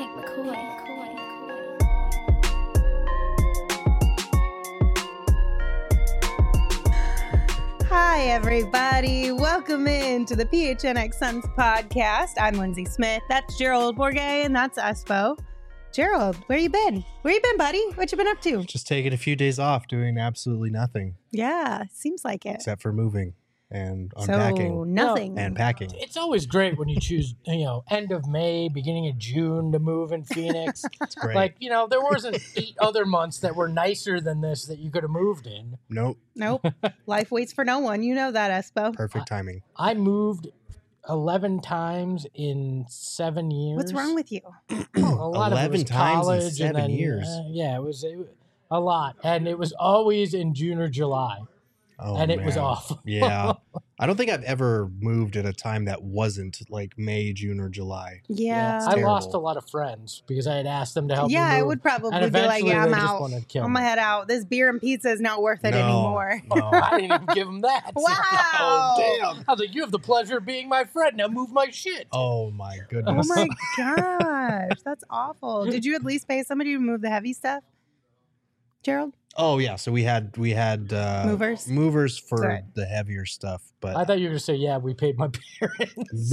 Hi, everybody. Welcome in to the PHNX Suns podcast. I'm Lindsay Smith. That's Gerald Bourget, and that's Espo. Gerald, where you been? Where you been, buddy? What you been up to? Just taking a few days off, doing absolutely nothing. Yeah, seems like it. Except for moving and unpacking. So, nothing. And packing. It's always great when you choose, end of May, beginning of June to move in Phoenix. It's great. Like, there wasn't 8 other months that were nicer than this that you could have moved in. Nope. Life waits for no one. You know that, Espo. Perfect timing. I moved 11 times in 7 years. What's wrong with you? A lot 11 of it was times in college 7 years. It was a lot. And it was always in June or July. Oh, and it was man. awful. Yeah. I don't think I've ever moved at a time that wasn't like May, June, or July. Yeah. I terrible. lost a lot of friends because I had asked them to help me Yeah, move. I would probably And be like, eventually yeah, I'm they just out. wanted to kill I'm going me. to head out. This beer and pizza is not worth it No. anymore. No, I didn't even give them that. Wow. Oh, damn. I was like, you have the pleasure of being my friend. Now move my shit. Oh, my Oh goodness. my gosh, that's awful. Did you at least pay somebody to move the heavy stuff, Gerald? Oh, yeah. So we had movers for Good. the heavier stuff. But I thought you were going to say, yeah, we paid my parents.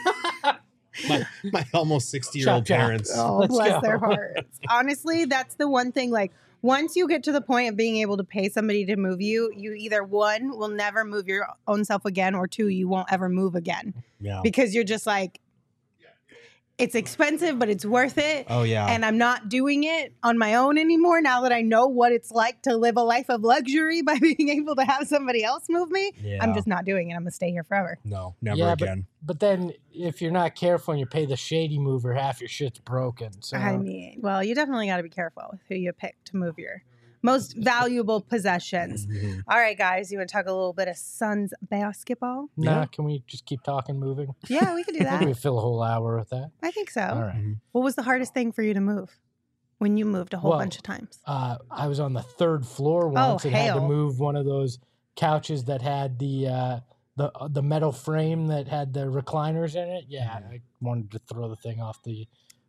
my almost 60-year-old Chop, chop. parents. Oh, Let's bless go. their hearts. Honestly, that's the one thing. Like, once you get to the point of being able to pay somebody to move you, you either one, will never move your own self again, or two, you won't ever move again. Yeah. Because you're just like, it's expensive, but it's worth it. Oh, yeah. And I'm not doing it on my own anymore now that I know what it's like to live a life of luxury by being able to have somebody else move me. Yeah. I'm just not doing it. I'm going to stay here forever. No, never Yeah, again. But then if you're not careful and you pay the shady mover, half your shit's broken. So I mean, well, you definitely got to be careful with who you pick to move your most valuable possessions. Mhm. All right, guys, you want to talk a little bit of Suns basketball? nah, Yeah. can we just keep talking moving? Yeah, we could do Maybe we that. fill a whole hour with that. I think so. All right. Mhm. What was the hardest thing for you to move when you moved a whole Well, bunch of times? I was on the 3rd floor once and had to hail. move one of those couches that had the metal frame that had the recliners in it. Yeah, I wanted to throw the thing off the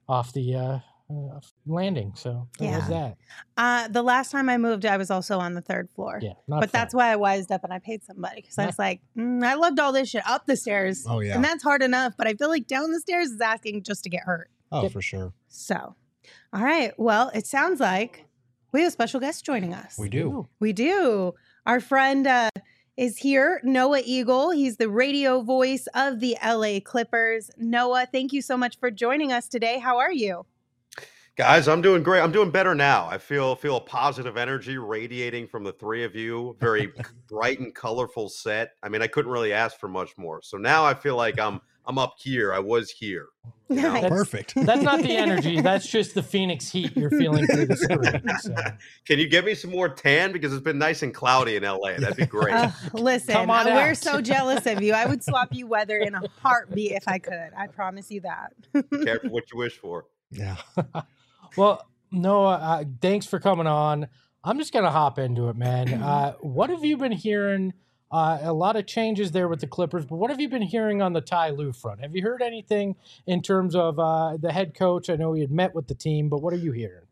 landing. So that was that. The last time I moved, I was also on the 3rd floor. Yeah, not But that's fun. why I wised up and I paid somebody because I was like, I loved all this shit up the stairs. Oh, yeah. And that's hard enough. But I feel like down the stairs is asking just to get hurt. Oh, Yep. for sure. So, all right. Well, it sounds like we have a special guest joining us. We do. We do. Our friend is here, Noah Eagle. He's the radio voice of the LA Clippers. Noah, thank you so much for joining us today. How are you? Guys, I'm doing great. I'm doing better now. I feel a positive energy radiating from the three of you. Very bright and colorful set. I mean, I couldn't really ask for much more. So now I feel like I'm up here. I was here. You know? Nice. Perfect. That's not the energy. That's just the Phoenix heat you're feeling through the screen. So. Can you get me some more tan? Because it's been nice and cloudy in LA. That'd be great. Listen, Come on we're out. so jealous of you. I would swap you weather in a heartbeat if I could. I promise you that. Careful what you wish for. Yeah. Well, Noah, thanks for coming on. I'm just going to hop into it, man. What have you been hearing? A lot of changes there with the Clippers, but what have you been hearing on the Ty Lue front? Have you heard anything in terms of the head coach? I know he had met with the team, but what are you hearing?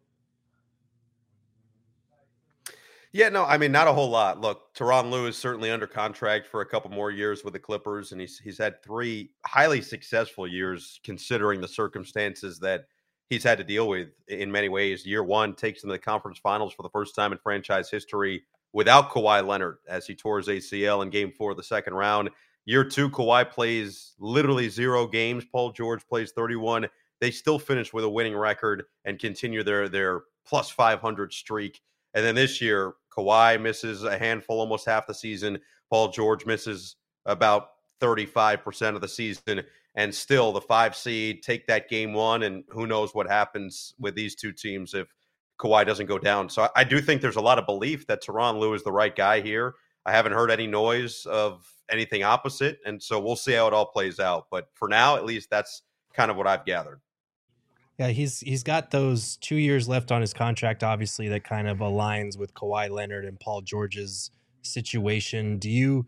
Yeah, no, I mean, not a whole lot. Look, Tyronn Lue is certainly under contract for a couple more years with the Clippers, and he's had 3 highly successful years considering the circumstances that he's had to deal with in many ways. Year 1 takes them to the conference finals for the first time in franchise history without Kawhi Leonard as he tore his ACL in Game 4 of the second round. Year 2, Kawhi plays literally 0 games. Paul George plays 31. They still finish with a winning record and continue their plus 500 streak. And then this year, Kawhi misses a handful, almost half the season. Paul George misses about 35% of the season. And still the 5 seed take that Game 1. And who knows what happens with these two teams if Kawhi doesn't go down. So I do think there's a lot of belief that Tyronn Lue is the right guy here. I haven't heard any noise of anything opposite. And so we'll see how it all plays out. But for now, at least that's kind of what I've gathered. Yeah, he's got those 2 years left on his contract, obviously, that kind of aligns with Kawhi Leonard and Paul George's situation. You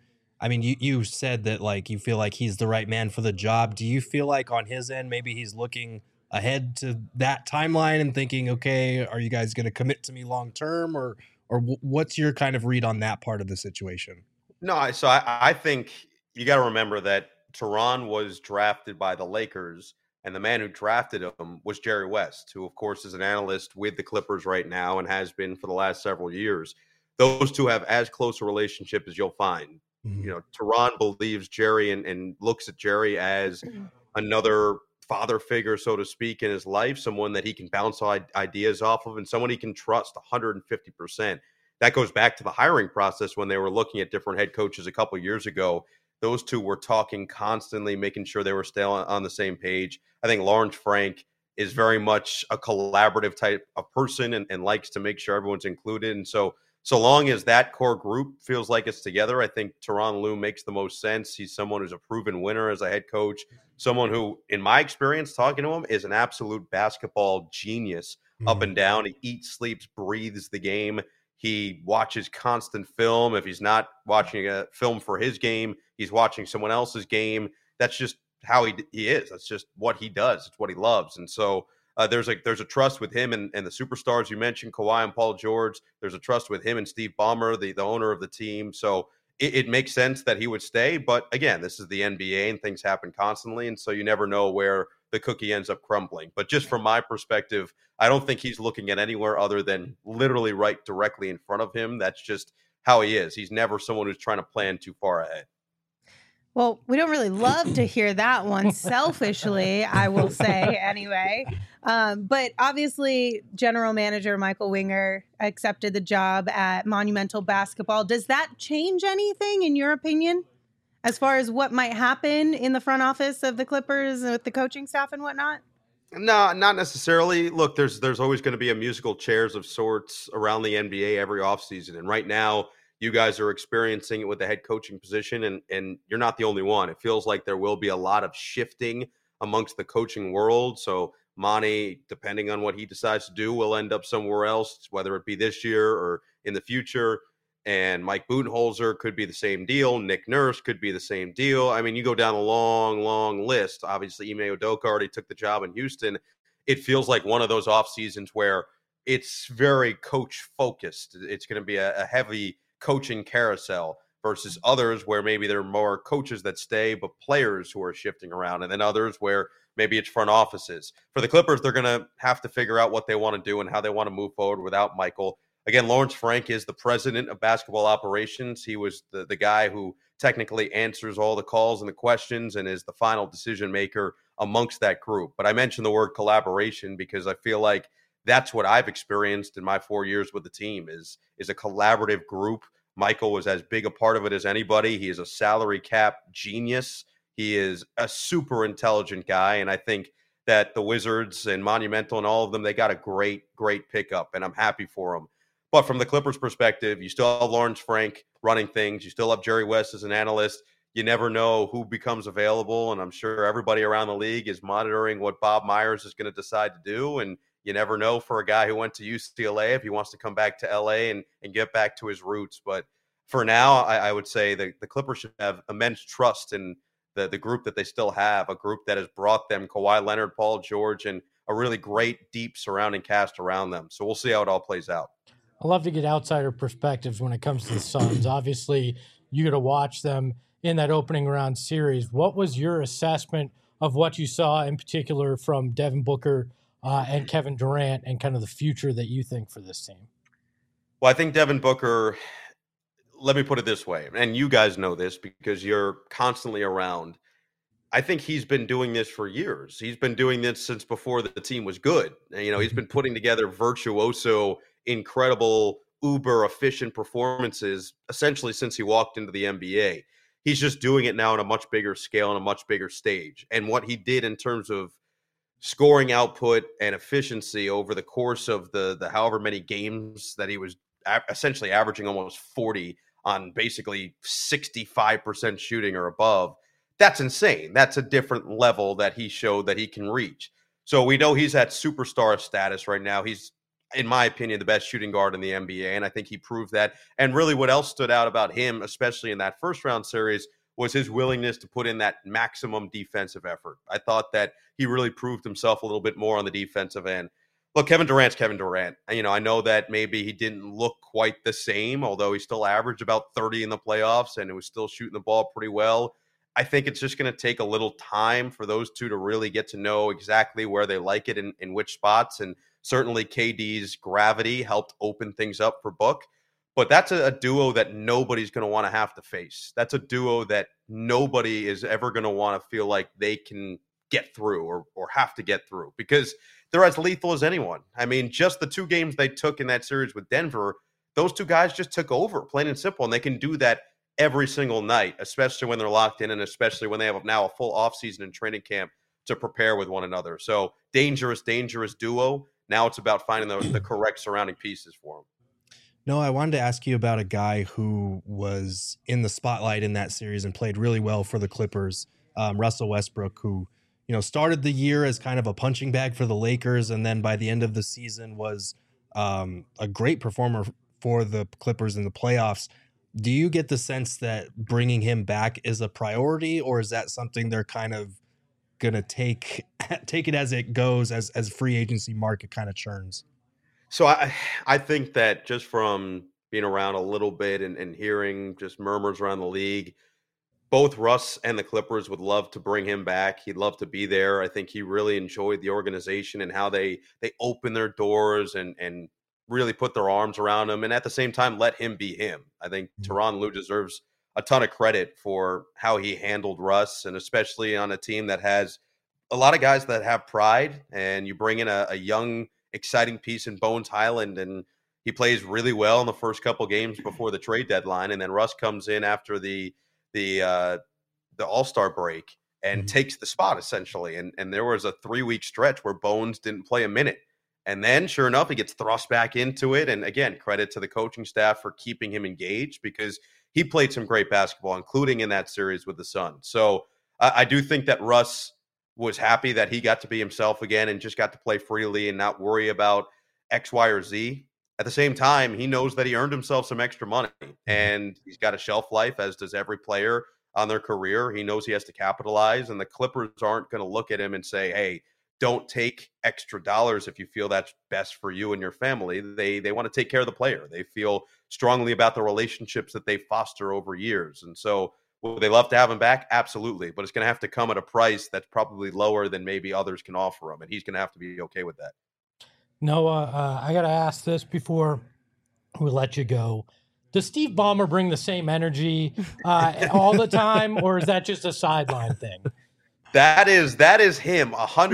said that, like, you feel like he's the right man for the job. Do you feel like on his end, maybe he's looking ahead to that timeline and thinking, okay, are you guys going to commit to me long term, or what's your kind of read on that part of the situation? No, I think you got to remember that Tehran was drafted by the Lakers, and the man who drafted him was Jerry West, who, of course, is an analyst with the Clippers right now and has been for the last several years. Those two have as close a relationship as you'll find. You know, Tehran believes Jerry and looks at Jerry as another father figure, so to speak, in his life, someone that he can bounce ideas off of and someone he can trust 150%. That goes back to the hiring process when they were looking at different head coaches a couple years ago. Those two were talking constantly, making sure they were still on the same page. I think Lawrence Frank is very much a collaborative type of person and likes to make sure everyone's included. And so long as that core group feels like it's together, I think Tyronn Lue makes the most sense. He's someone who's a proven winner as a head coach, someone who, in my experience talking to him, is an absolute basketball genius up and down. He eats, sleeps, breathes the game. He watches constant film. If he's not watching a film for his game, he's watching someone else's game. That's just how he is. That's just what he does. It's what he loves. And so there's a trust with him and the superstars you mentioned, Kawhi and Paul George. There's a trust with him and Steve Ballmer, the owner of the team. So it makes sense that he would stay. But again, this is the NBA and things happen constantly. And so you never know where the cookie ends up crumbling. But just from my perspective, I don't think he's looking at anywhere other than literally right directly in front of him. That's just how he is. He's never someone who's trying to plan too far ahead. Well, we don't really love to hear that one selfishly, I will say anyway. But obviously, general manager Michael Winger accepted the job at Monumental Basketball. Does that change anything, in your opinion, as far as what might happen in the front office of the Clippers with the coaching staff and whatnot? No, not necessarily. Look, there's always going to be a musical chairs of sorts around the NBA every offseason. And right now, you guys are experiencing it with the head coaching position, and you're not the only one. It feels like there will be a lot of shifting amongst the coaching world. So Monty, depending on what he decides to do, will end up somewhere else, whether it be this year or in the future. And Mike Budenholzer could be the same deal. Nick Nurse could be the same deal. I mean, you go down a long, long list. Obviously, Ime Udoka already took the job in Houston. It feels like one of those off seasons where it's very coach focused. It's going to be a heavy coaching carousel versus others where maybe there are more coaches that stay, but players who are shifting around, and then others where maybe it's front offices. For the Clippers, they're going to have to figure out what they want to do and how they want to move forward without Michael. Again, Lawrence Frank is the president of basketball operations. He was the guy who technically answers all the calls and the questions and is the final decision maker amongst that group. But I mentioned the word collaboration because I feel like that's what I've experienced in my 4 years with the team is a collaborative group. Michael was as big a part of it as anybody. He is a salary cap genius. He is a super intelligent guy. And I think that the Wizards and Monumental and all of them, they got a great pickup, and I'm happy for them. But from the Clippers perspective, you still have Lawrence Frank running things. You still have Jerry West as an analyst. You never know who becomes available. And I'm sure everybody around the league is monitoring what Bob Myers is going to decide to do. And you never know for a guy who went to UCLA if he wants to come back to LA and get back to his roots. But for now, I would say the Clippers should have immense trust in the group that they still have, a group that has brought them Kawhi Leonard, Paul George, and a really great, deep surrounding cast around them. So we'll see how it all plays out. I love to get outsider perspectives when it comes to the Suns. Obviously, you got to watch them in that opening round series. What was your assessment of what you saw in particular from Devin Booker and Kevin Durant and kind of the future that you think for this team? Well, I think Devin Booker, let me put it this way, and you guys know this because you're constantly around. I think he's been doing this for years. He's been doing this since before the team was good. You know, he's been putting together virtuoso, incredible, uber efficient performances essentially since he walked into the NBA. He's just doing it now on a much bigger scale and a much bigger stage. And what he did in terms of scoring output and efficiency over the course of the however many games that he was essentially averaging almost 40 on basically 65% shooting or above, that's insane. That's a different level that he showed that he can reach. So we know he's at superstar status right now. He's, in my opinion, the best shooting guard in the NBA, and I think he proved that. And really what else stood out about him, especially in that first round series, was his willingness to put in that maximum defensive effort. I thought that he really proved himself a little bit more on the defensive end. Look, Kevin Durant's Kevin Durant. I know that maybe he didn't look quite the same, although he still averaged about 30 in the playoffs and it was still shooting the ball pretty well. I think it's just going to take a little time for those two to really get to know exactly where they like it in which spots. And certainly KD's gravity helped open things up for Book. But that's a duo that nobody's going to want to have to face. That's a duo that nobody is ever going to want to feel like they can get through or have to get through, because they're as lethal as anyone. I mean, just the 2 games they took in that series with Denver, those 2 guys just took over, plain and simple. And they can do that every single night, especially when they're locked in and especially when they have now a full offseason and training camp to prepare with one another. So dangerous duo. Now it's about finding the correct surrounding pieces for them. No, I wanted to ask you about a guy who was in the spotlight in that series and played really well for the Clippers, Russell Westbrook, who started the year as kind of a punching bag for the Lakers, and then by the end of the season was a great performer for the Clippers in the playoffs. Do you get the sense that bringing him back is a priority, or is that something they're kind of gonna take it as it goes as free agency market kind of churns? So I think that just from being around a little bit and hearing just murmurs around the league, both Russ and the Clippers would love to bring him back. He'd love to be there. I think he really enjoyed the organization and how they open their doors and really put their arms around him, and at the same time let him be him. I think Tyronn Lue deserves a ton of credit for how he handled Russ, and especially on a team that has a lot of guys that have pride, and you bring in a young, exciting piece in Bones Highland, and he plays really well in the first couple games before the trade deadline, and then Russ comes in after the All-Star break and takes the spot essentially. And there was a 3-week stretch where Bones didn't play a minute. And then sure enough, he gets thrust back into it. And again, credit to the coaching staff for keeping him engaged, because he played some great basketball, including in that series with the Suns. So I do think that Russ was happy that he got to be himself again and just got to play freely and not worry about X, Y, or Z. At the same time, he knows that he earned himself some extra money, and he's got a shelf life, as does every player on their career. He knows he has to capitalize, and the Clippers aren't going to look at him and say, hey, don't take extra dollars if you feel that's best for you and your family. They want to take care of the player. They feel strongly about the relationships that they foster over years. And so would they love to have him back? Absolutely. But it's going to have to come at a price that's probably lower than maybe others can offer him. And he's going to have to be okay with that. Noah, I got to ask this before we let you go. Does Steve Ballmer bring the same energy all the time, or is that just a sideline thing? That is him,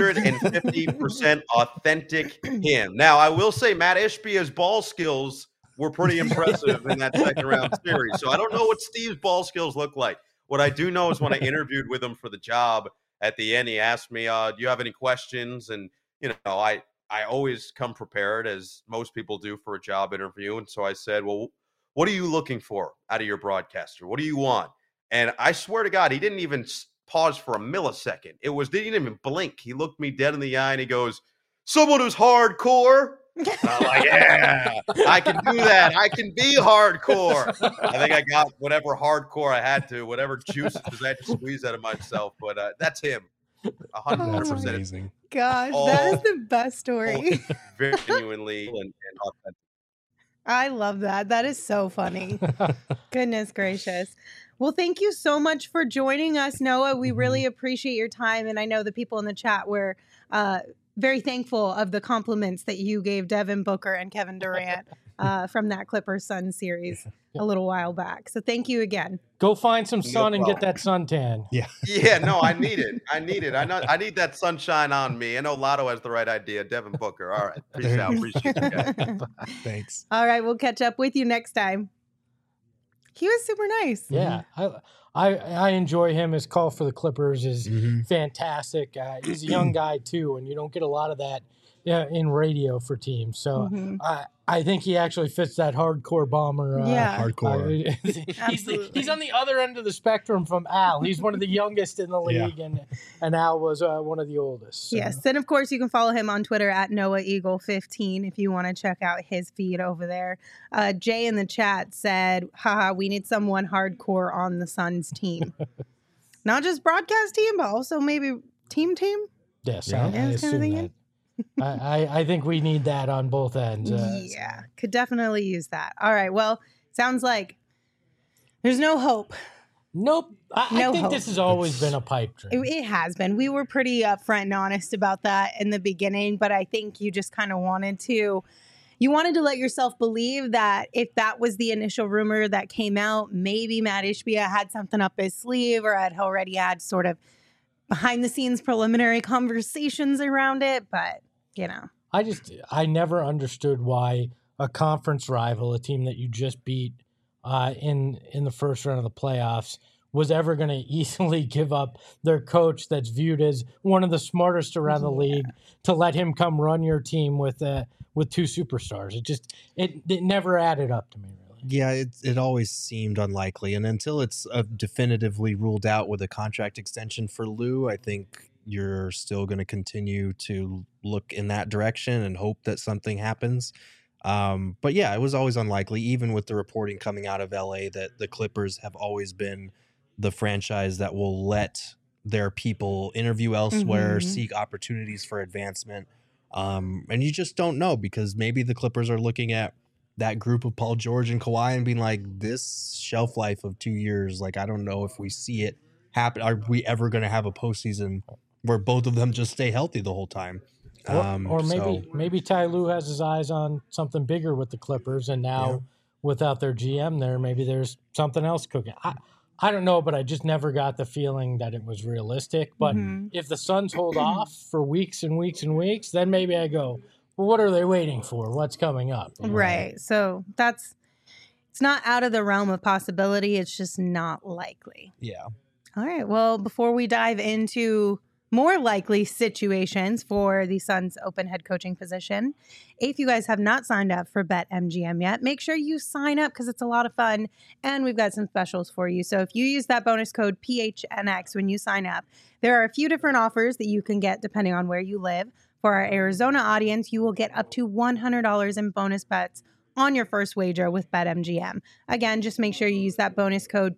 150% authentic him. Now, I will say Matt Ishbia's ball skills were pretty impressive in that second round series. So I don't know what Steve's ball skills look like. What I do know is when I interviewed with him for the job, at the end, he asked me, do you have any questions? And, I always come prepared, as most people do for a job interview. And so I said, well, what are you looking for out of your broadcaster? What do you want? And I swear to God, he didn't even pause for a millisecond. They didn't even blink. He looked me dead in the eye and he goes, someone who's hardcore. And I'm like, yeah, I can do that. I can be hardcore. I think I got whatever hardcore I had to, whatever juices I had to squeeze out of myself. But that's him. 100%. That's amazing. Gosh, that is the best story. Very genuinely and authentic. I love that. That is so funny. Goodness gracious. Well, thank you so much for joining us, Noah. We really appreciate your time. And I know the people in the chat were very thankful of the compliments that you gave Devin Booker and Kevin Durant from that Clippers Sun series a little while back. So thank you again. Go find some sun and get that suntan. Yeah. Yeah, no, I need it. I need that sunshine on me. I know Lotto has the right idea. Devin Booker. All right. Peace out. Appreciate you guys. Thanks. All right. We'll catch up with you next time. He was super nice. Yeah. I enjoy him. His call for the Clippers is fantastic. He's a young guy too, and you don't get a lot of that in radio for teams. So I think he actually fits that hardcore bomber. Hardcore. He's on the other end of the spectrum from Al. He's one of the youngest in the league, and Al was one of the oldest. So. Yes, and of course you can follow him on Twitter at NoahEagle15 if you want to check out his feed over there. Jay in the chat said, haha, we need someone hardcore on the Sun Suns team. Not just broadcast team, but also maybe team. Yes, Yeah. I Yeah, I was kinda assume thinking. that. I think we need that on both ends. Yeah, could definitely use that. All right. Well, sounds like there's no hope. Nope. I No think hope. this has always been a pipe dream. It has been. We were pretty upfront and honest about that in the beginning, but I think you just kind of wanted to let yourself believe that if that was the initial rumor that came out, maybe Matt Ishbia had something up his sleeve or had already had sort of behind the scenes preliminary conversations around it. But, I never understood why a conference rival, a team that you just beat in the first round of the playoffs, was ever going to easily give up their coach that's viewed as one of the smartest around the league to let him come run your team with two superstars. It never added up to me, really. Yeah, it always seemed unlikely. And until it's definitively ruled out with a contract extension for Lou, I think you're still going to continue to look in that direction and hope that something happens. But yeah, it was always unlikely, even with the reporting coming out of LA that the Clippers have always been the franchise that will let their people interview elsewhere, seek opportunities for advancement. And you just don't know, because maybe the Clippers are looking at that group of Paul George and Kawhi and being like, this shelf life of 2 years, like, I don't know if we see it happen. Are we ever going to have a postseason where both of them just stay healthy the whole time? Or maybe Ty Lue has his eyes on something bigger with the Clippers, and now without their GM there, maybe there's something else cooking. I don't know, but I just never got the feeling that it was realistic. But if the Suns hold off for weeks and weeks and weeks, then maybe I go, well, what are they waiting for? What's coming up? Right. So it's not out of the realm of possibility. It's just not likely. Yeah. All right. Well, before we dive into more likely situations for the Suns open head coaching position, if you guys have not signed up for BetMGM yet, make sure you sign up because it's a lot of fun and we've got some specials for you. So if you use that bonus code PHNX when you sign up, there are a few different offers that you can get depending on where you live. For our Arizona audience, you will get up to $100 in bonus bets on your first wager with BetMGM. Again, just make sure you use that bonus code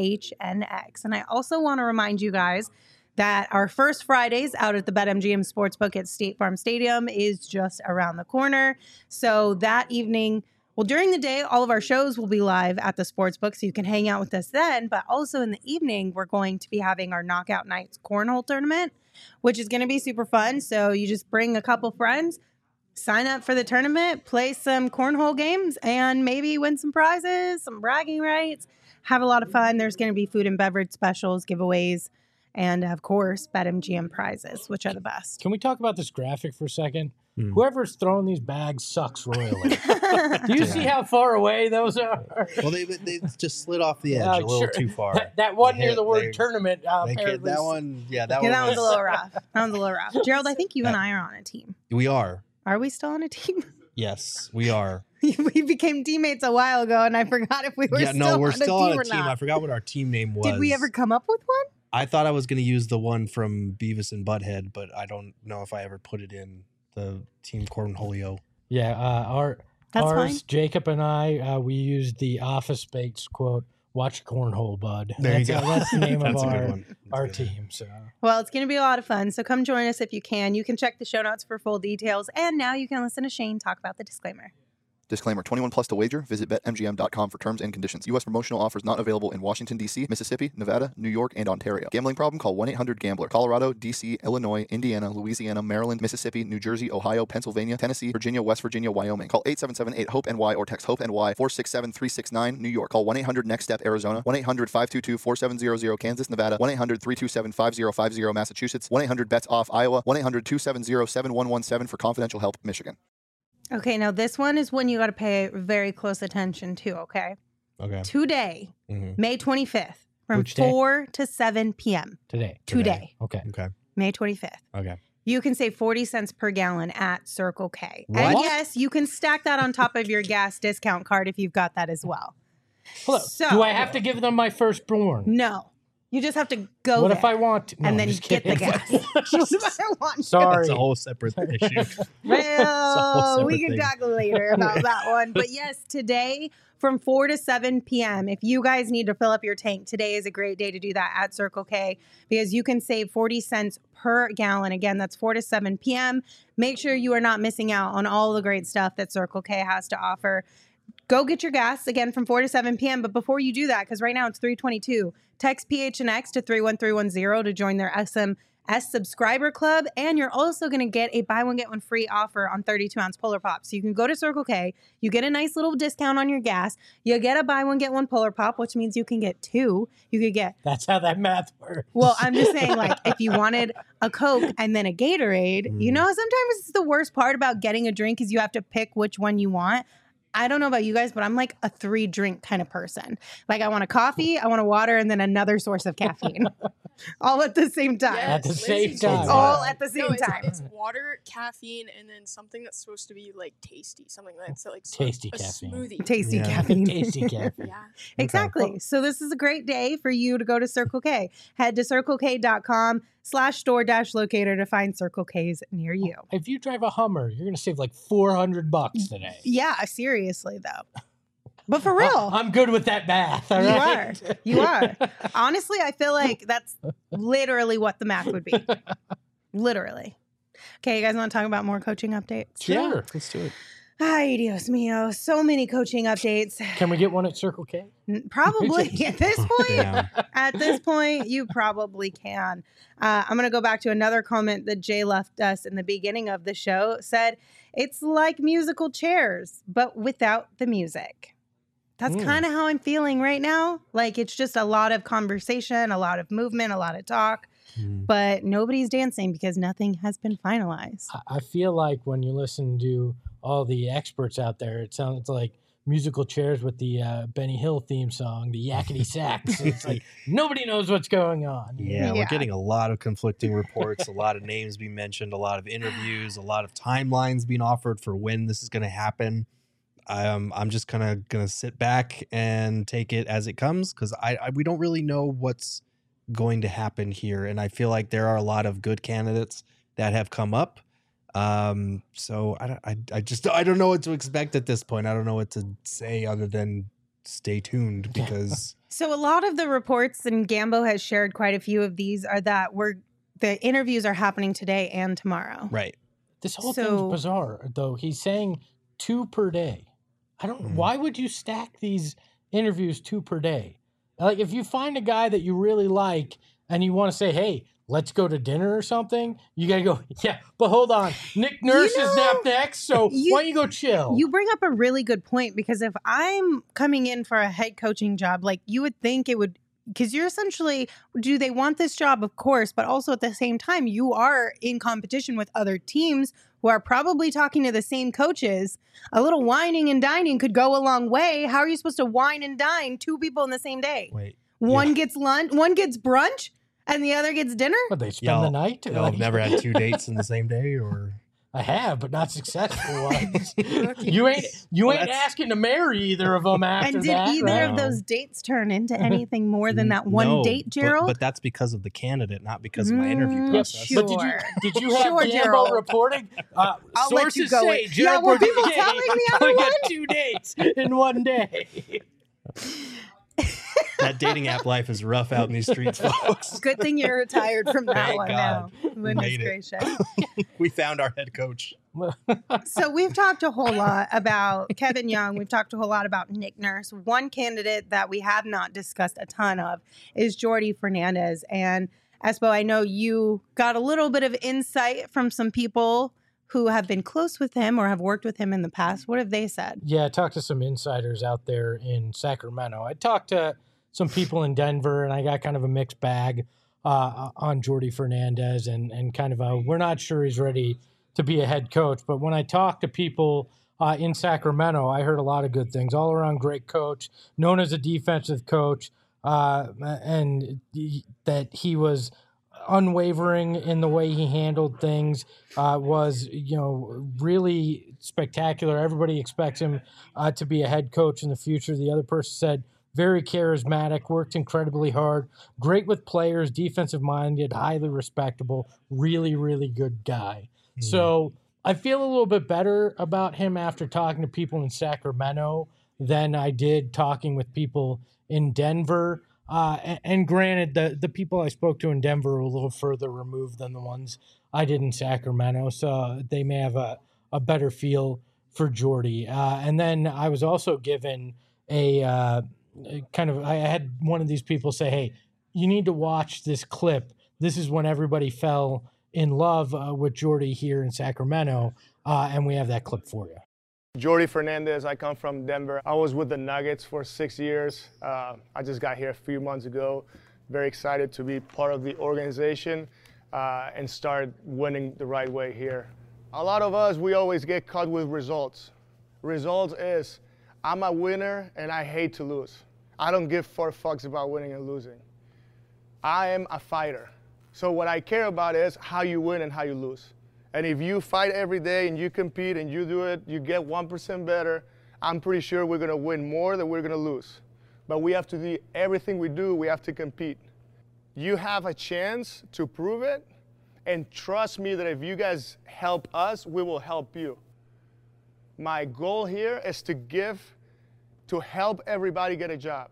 PHNX. And I also want to remind you guys that our first Fridays out at the BetMGM Sportsbook at State Farm Stadium is just around the corner. So that evening, well, during the day, all of our shows will be live at the Sportsbook, so you can hang out with us then. But also in the evening, we're going to be having our Knockout Nights Cornhole Tournament, which is going to be super fun. So you just bring a couple friends, sign up for the tournament, play some cornhole games, and maybe win some prizes, some bragging rights, have a lot of fun. There's going to be food and beverage specials, giveaways, and of course, BetMGM prizes, which are the best. Can we talk about this graphic for a second? Whoever's throwing these bags sucks royally. Do you see how far away those are? Well, they just slid off the edge a little too far. That one near the word tournament. Apparently. That one, That was a little rough. Gerald, I think you and I are on a team. We are. Are we still on a team? Yes, we are. We became teammates a while ago, and I forgot if we were we're still on a team. or not. I forgot what our team name was. Did we ever come up with one? I thought I was going to use the one from Beavis and Butthead, but I don't know if I ever put it in the Team Cornholio. Yeah, That's ours, fine. Jacob and I, we used the Office Space quote, "Watch Cornhole, bud." There you go. That's the name That's of a good one. our That's good. team. So Well, it's going to be a lot of fun. So come join us if you can. You can check the show notes for full details. And now you can listen to Shane talk about the disclaimer. Disclaimer, 21 plus to wager. Visit BetMGM.com for terms and conditions. U.S. promotional offers not available in Washington, D.C., Mississippi, Nevada, New York, and Ontario. Gambling problem? Call 1-800-GAMBLER. Colorado, D.C., Illinois, Indiana, Louisiana, Maryland, Mississippi, New Jersey, Ohio, Pennsylvania, Tennessee, Virginia, West Virginia, Wyoming. Call 877-8-HOPE-NY or text HOPE-NY 467-369, New York. Call 1-800-NEXT-STEP, Arizona. 1-800-522-4700, Kansas, Nevada. 1-800-327-5050, Massachusetts. 1-800-BETS-OFF, Iowa. 1-800-270-7117 for confidential help, Michigan. Okay, now this one is one you got to pay very close attention to, okay? Okay. Today, Mhm. May 25th, from Which day? 4 to 7 p.m. today. Today, Okay. Okay. May 25th. Okay. You can save 40 cents per gallon at Circle K. What? And yes, you can stack that on top of your gas discount card if you've got that as well. Hello. So- Do I have to give them my firstborn? No, you just have to go What there. if I want to? No, and I'm then just get the kidding. gas. What if I want to? Sorry. That's a whole separate issue. Well, separate we can thing. talk later about that one. But yes, today from 4 to 7 p.m. If you guys need to fill up your tank, today is a great day to do that at Circle K because you can save 40 cents per gallon. Again, that's 4 to 7 p.m. Make sure you are not missing out on all the great stuff that Circle K has to offer. Go get your gas again from 4 to 7 p.m. But before you do that, because right now it's 322, text PHNX to 31310 to join their SMS subscriber club. And you're also going to get a buy one, get one free offer on 32-ounce Polar Pop. So you can go to Circle K, you get a nice little discount on your gas. You get a buy one, get one Polar Pop, which means you can get two. You could get... That's how that math works. Well, I'm just saying, like, if you wanted a Coke and then a Gatorade, you know, sometimes it's the worst part about getting a drink is you have to pick which one you want. I don't know about you guys, but I'm like a 3-drink kind of person. Like I want a coffee, I want a water, and then another source of caffeine. All at the same time. Yes, At the same Lindsay time. does All that. at the same No, time. It's water, caffeine, and then something that's supposed to be like tasty. Something that's like Tasty a caffeine. smoothie. Tasty Yeah. caffeine. Tasty caffeine. Yeah. Exactly. So this is a great day for you to go to Circle K. Head to circlek.com/store-locator to find Circle K's near you. If you drive a Hummer, you're going to save like $400 today. Yeah, seriously though. But for real. I'm good with that math. All You right? are. You are. Honestly, I feel like that's literally what the math would be. Literally. Okay, you guys want to talk about more coaching updates? Sure. Let's do it. Ay, Dios mío. So many coaching updates. Can we get one at Circle K? Probably at this point. Damn. At this point, you probably can. I'm going to go back to another comment that Jay left us in the beginning of the show. Said, it's like musical chairs, but without the music. That's kind of how I'm feeling right now. Like it's just a lot of conversation, a lot of movement, a lot of talk, but nobody's dancing because nothing has been finalized. I feel like when you listen to all the experts out there, it sounds like musical chairs with the Benny Hill theme song, the yakety sax. It's like nobody knows what's going on. Yeah, Yeah. we're getting a lot of conflicting reports, a lot of names being mentioned, a lot of interviews, a lot of timelines being offered for when this is going to happen. I'm just kind of going to sit back and take it as it comes because we don't really know what's going to happen here. And I feel like there are a lot of good candidates that have come up. So I don't know what to expect at this point. I don't know what to say other than stay tuned because So a lot of the reports, and Gambo has shared quite a few of these, are that the interviews are happening today and tomorrow. right. This whole So- thing's bizarre, though. He's saying 2 per day. I don't. Why would you stack these interviews 2 per day? Like, if you find a guy that you really like and you want to say, "Hey, let's go to dinner or something," you gotta go. Yeah, but hold on, Nick Nurse is know, up next, so why don't you go chill? You bring up a really good point because if I'm coming in for a head coaching job, like you would think it would, because you're essentially, do they want this job? Of course, but also at the same time, you are in competition with other teams who are probably talking to the same coaches. A little whining and dining could go a long way. How are you supposed to wine and dine 2 people in the same day? Wait. One gets lunch, one gets brunch, and the other gets dinner? But they spend the night. Y'all have never had 2 dates in the same day, or I have, but not successful ones. Rookies. you ain't that's- asking to marry either of them after And did that. either right? of those dates turn into anything more than that one No, date, Gerald? But that's because of the candidate, not because of my interview process. sure. But did you have Sure, Gambo Gerald. reporting? I'll let you Sources go say with- Gerald Yeah, were Bourguet people telling the other only one? got 2 dates in one day. That dating app life is rough out in these streets, folks. Good thing you're retired from that Thank one God. now. Goodness made it. gracious. We found our head coach. So we've talked a whole lot about Kevin Young. We've talked a whole lot about Nick Nurse. One candidate that we have not discussed a ton of is Jordi Fernandez. And Espo, I know you got a little bit of insight from some people who have been close with him or have worked with him in the past. What have they said? Yeah, I talked to some insiders out there in Sacramento. I talked to some people in Denver, and I got kind of a mixed bag on Jordi Fernandez and kind of we're not sure he's ready to be a head coach. But when I talked to people in Sacramento, I heard a lot of good things. All around great coach, known as a defensive coach, and that he was unwavering in the way he handled things, was, really spectacular. Everybody expects him to be a head coach in the future. The other person said, very charismatic, worked incredibly hard, great with players, defensive-minded, highly respectable, really, really good guy. So I feel a little bit better about him after talking to people in Sacramento than I did talking with people in Denver. And granted, the people I spoke to in Denver were a little further removed than the ones I did in Sacramento, so they may have a better feel for Jordy. And then I was also given I had one of these people say, hey, you need to watch this clip. This is when everybody fell in love with Jordy here in Sacramento, and we have that clip for you. Jordy Fernandez, I come from Denver. I was with the Nuggets for 6 years. I just got here a few months ago. Very excited to be part of the organization and start winning the right way here. A lot of us, we always get caught with results. Results is, I'm a winner and I hate to lose. I don't give 4 fucks about winning and losing. I am a fighter. So what I care about is how you win and how you lose. And if you fight every day and you compete and you do it, you get 1% better, I'm pretty sure we're going to win more than we're going to lose. But we have to do everything we do, we have to compete. You have a chance to prove it, and trust me that if you guys help us, we will help you. My goal here is to help everybody get a job.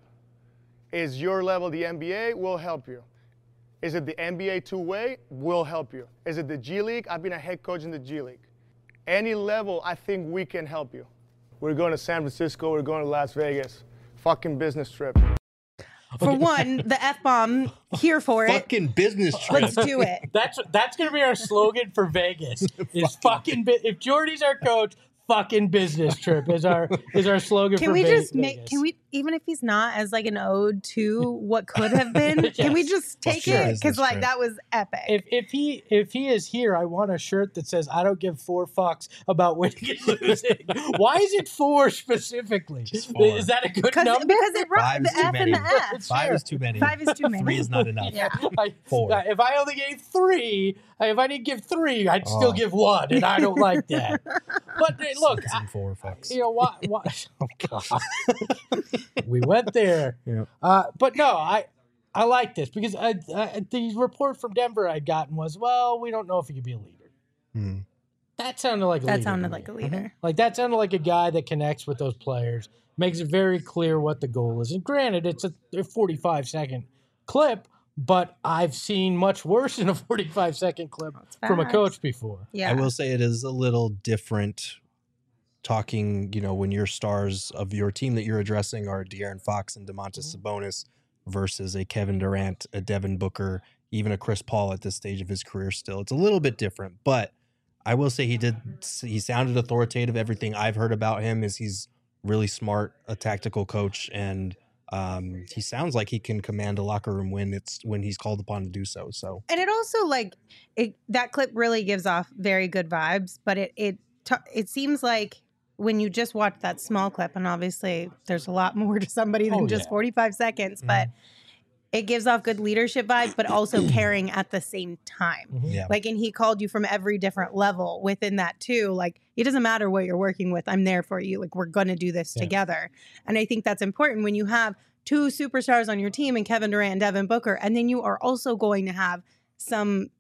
Is your level the NBA? We'll help you. Is it the NBA two-way? We'll help you. Is it the G League? I've been a head coach in the G League. Any level, I think we can help you. We're going to San Francisco. We're going to Las Vegas. Fucking business trip. For one, the F-bomb, here for it. Fucking business trip. Let's do it. That's going to be our slogan for Vegas. Is fucking if Jordy's our coach, fucking business trip is our slogan Can for we just Vegas. can we, even if he's not, as like an ode to what could have been, Yes. can we just take Sure. it? Because like Trip. that was epic. If he is here, I want a shirt that says I don't give 4 fucks about winning and losing. Why is it 4 specifically? Just 4. Is that a good because number? it wrote 5 the is too F many. and the F. 5 is too many. 5 is too many. 3 is not enough. Yeah. 4. If I only gave 3, if I didn't give 3, I'd still give 1, and I don't like that. But look, 6 and 4 fucks. you know what? Oh God, we went there. Yeah. But no, I like this because the report from Denver I'd gotten was, well, we don't know if he could be a leader. Hmm. That sounded like a leader. That sounded to like a me. leader. Like that sounded like a guy that connects with those players, makes it very clear what the goal is. And granted, it's a 45-second clip, but I've seen much worse than a 45-second clip from a facts. coach before. Yeah. I will say it is a little different talking, when your stars of your team that you're addressing are De'Aaron Fox and Domantas Sabonis versus a Kevin Durant, a Devin Booker, even a Chris Paul at this stage of his career still. It's a little bit different, but I will say he sounded authoritative. Everything I've heard about him is he's really smart, a tactical coach, and he sounds like he can command a locker room when he's called upon to do so. So, And it also that clip really gives off very good vibes, but it seems like when you just watch that small clip, and obviously there's a lot more to somebody than just 45 seconds, but it gives off good leadership vibes, but also caring at the same time. yeah. And he called you from every different level within that too. Like, it doesn't matter what you're working with. I'm there for you. Like, we're going to do this together. And I think that's important when you have 2 superstars on your team and Kevin Durant and Devin Booker, and then you are also going to have some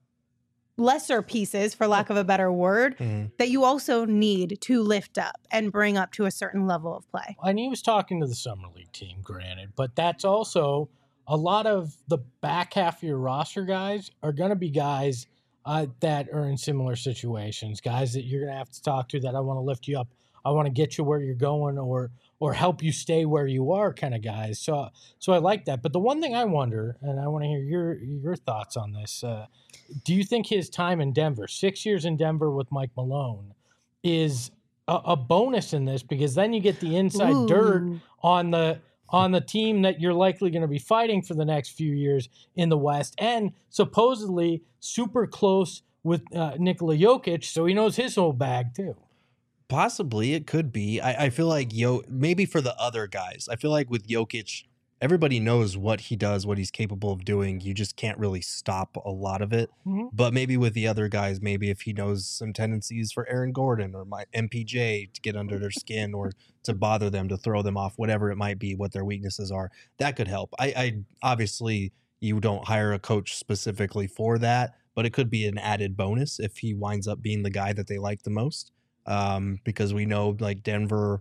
lesser pieces, for lack of a better word, that you also need to lift up and bring up to a certain level of play. And he was talking to the Summer League team, granted, but that's also a lot of the back half of your roster guys are going to be guys that are in similar situations, guys that you're going to have to talk to that I want to lift you up. I want to get you where you're going or help you stay where you are kind of guys. So I like that. But the one thing I wonder, and I want to hear your thoughts on this, do you think his time in Denver, 6 years in Denver with Mike Malone, is a bonus in this? Because then you get the inside dirt on the team that you're likely going to be fighting for the next few years in the West, and supposedly super close with Nikola Jokic, so he knows his whole bag too. Possibly, it could be. I feel like maybe for the other guys. I feel like with Jokic, everybody knows what he does, what he's capable of doing. You just can't really stop a lot of it. But maybe with the other guys, maybe if he knows some tendencies for Aaron Gordon or my MPJ to get under their skin or to bother them, to throw them off, whatever it might be, what their weaknesses are, that could help. I obviously, you don't hire a coach specifically for that, but it could be an added bonus if he winds up being the guy that they like the most. Because we know like Denver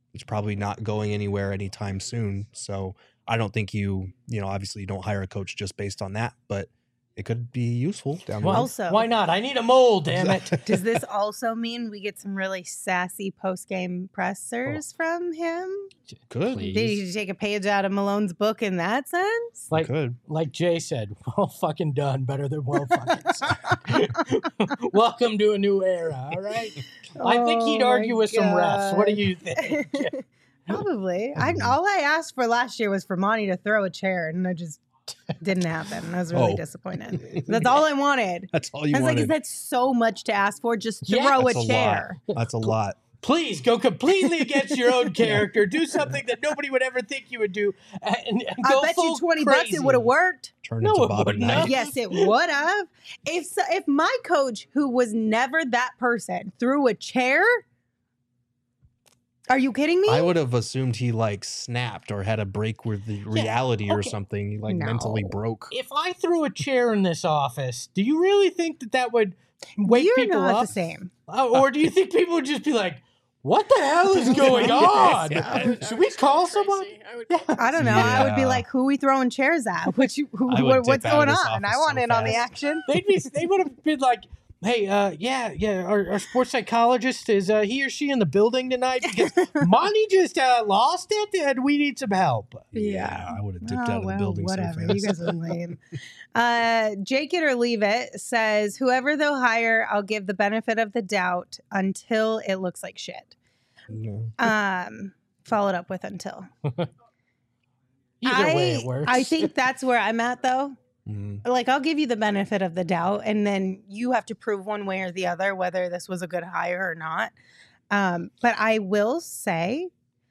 It's probably not going anywhere anytime soon. So I don't think obviously you don't hire a coach just based on that, but it could be useful down the road. Also, why not? I need a mold, damn it. does this also mean we get some really sassy post-game pressers from him? Could. Please. Did he take a page out of Malone's book in that sense? Could. Like Jay said, well fucking done, better than well fucking said. Welcome to a new era, all right? I think he'd argue with some refs. What do you think? Probably. All I asked for last year was for Monty to throw a chair, and it just didn't happen. I was really disappointed. That's all I wanted. That's all you I was wanted. like, is that so much to ask for? Just throw That's a chair. That's a lot. Please go completely against your own character. Do something that nobody would ever think you would do. And I go bet full you $20 crazy. it would have worked. Turn No, into it Bob and wouldn't Knight. have. Yes, it would have. If my coach, who was never that person, threw a chair, are you kidding me? I would have assumed he snapped or had a break with the reality or something. He mentally broke. If I threw a chair in this office, do you really think that would wake You're people not up? the same. Or do you think people would just be like, what the hell is going on? Yeah. Should we call someone? I don't know. I would be Yeah. like, who are we throwing chairs at? I would What's dip going out of this on? I office want so in on the fast. action. They would have been like, hey, our sports psychologist, is he or she in the building tonight? Because Monty just lost it and we need some help. Yeah. I would have dipped out of the building whatever. so fast. You guys are lame. Jake It or Leave It says, whoever they'll hire, I'll give the benefit of the doubt until it looks like shit. No. Followed up with until. Either way it works. I think that's where I'm at, though. Mhm. I'll give you the benefit of the doubt, and then you have to prove one way or the other whether this was a good hire or not. But I will say,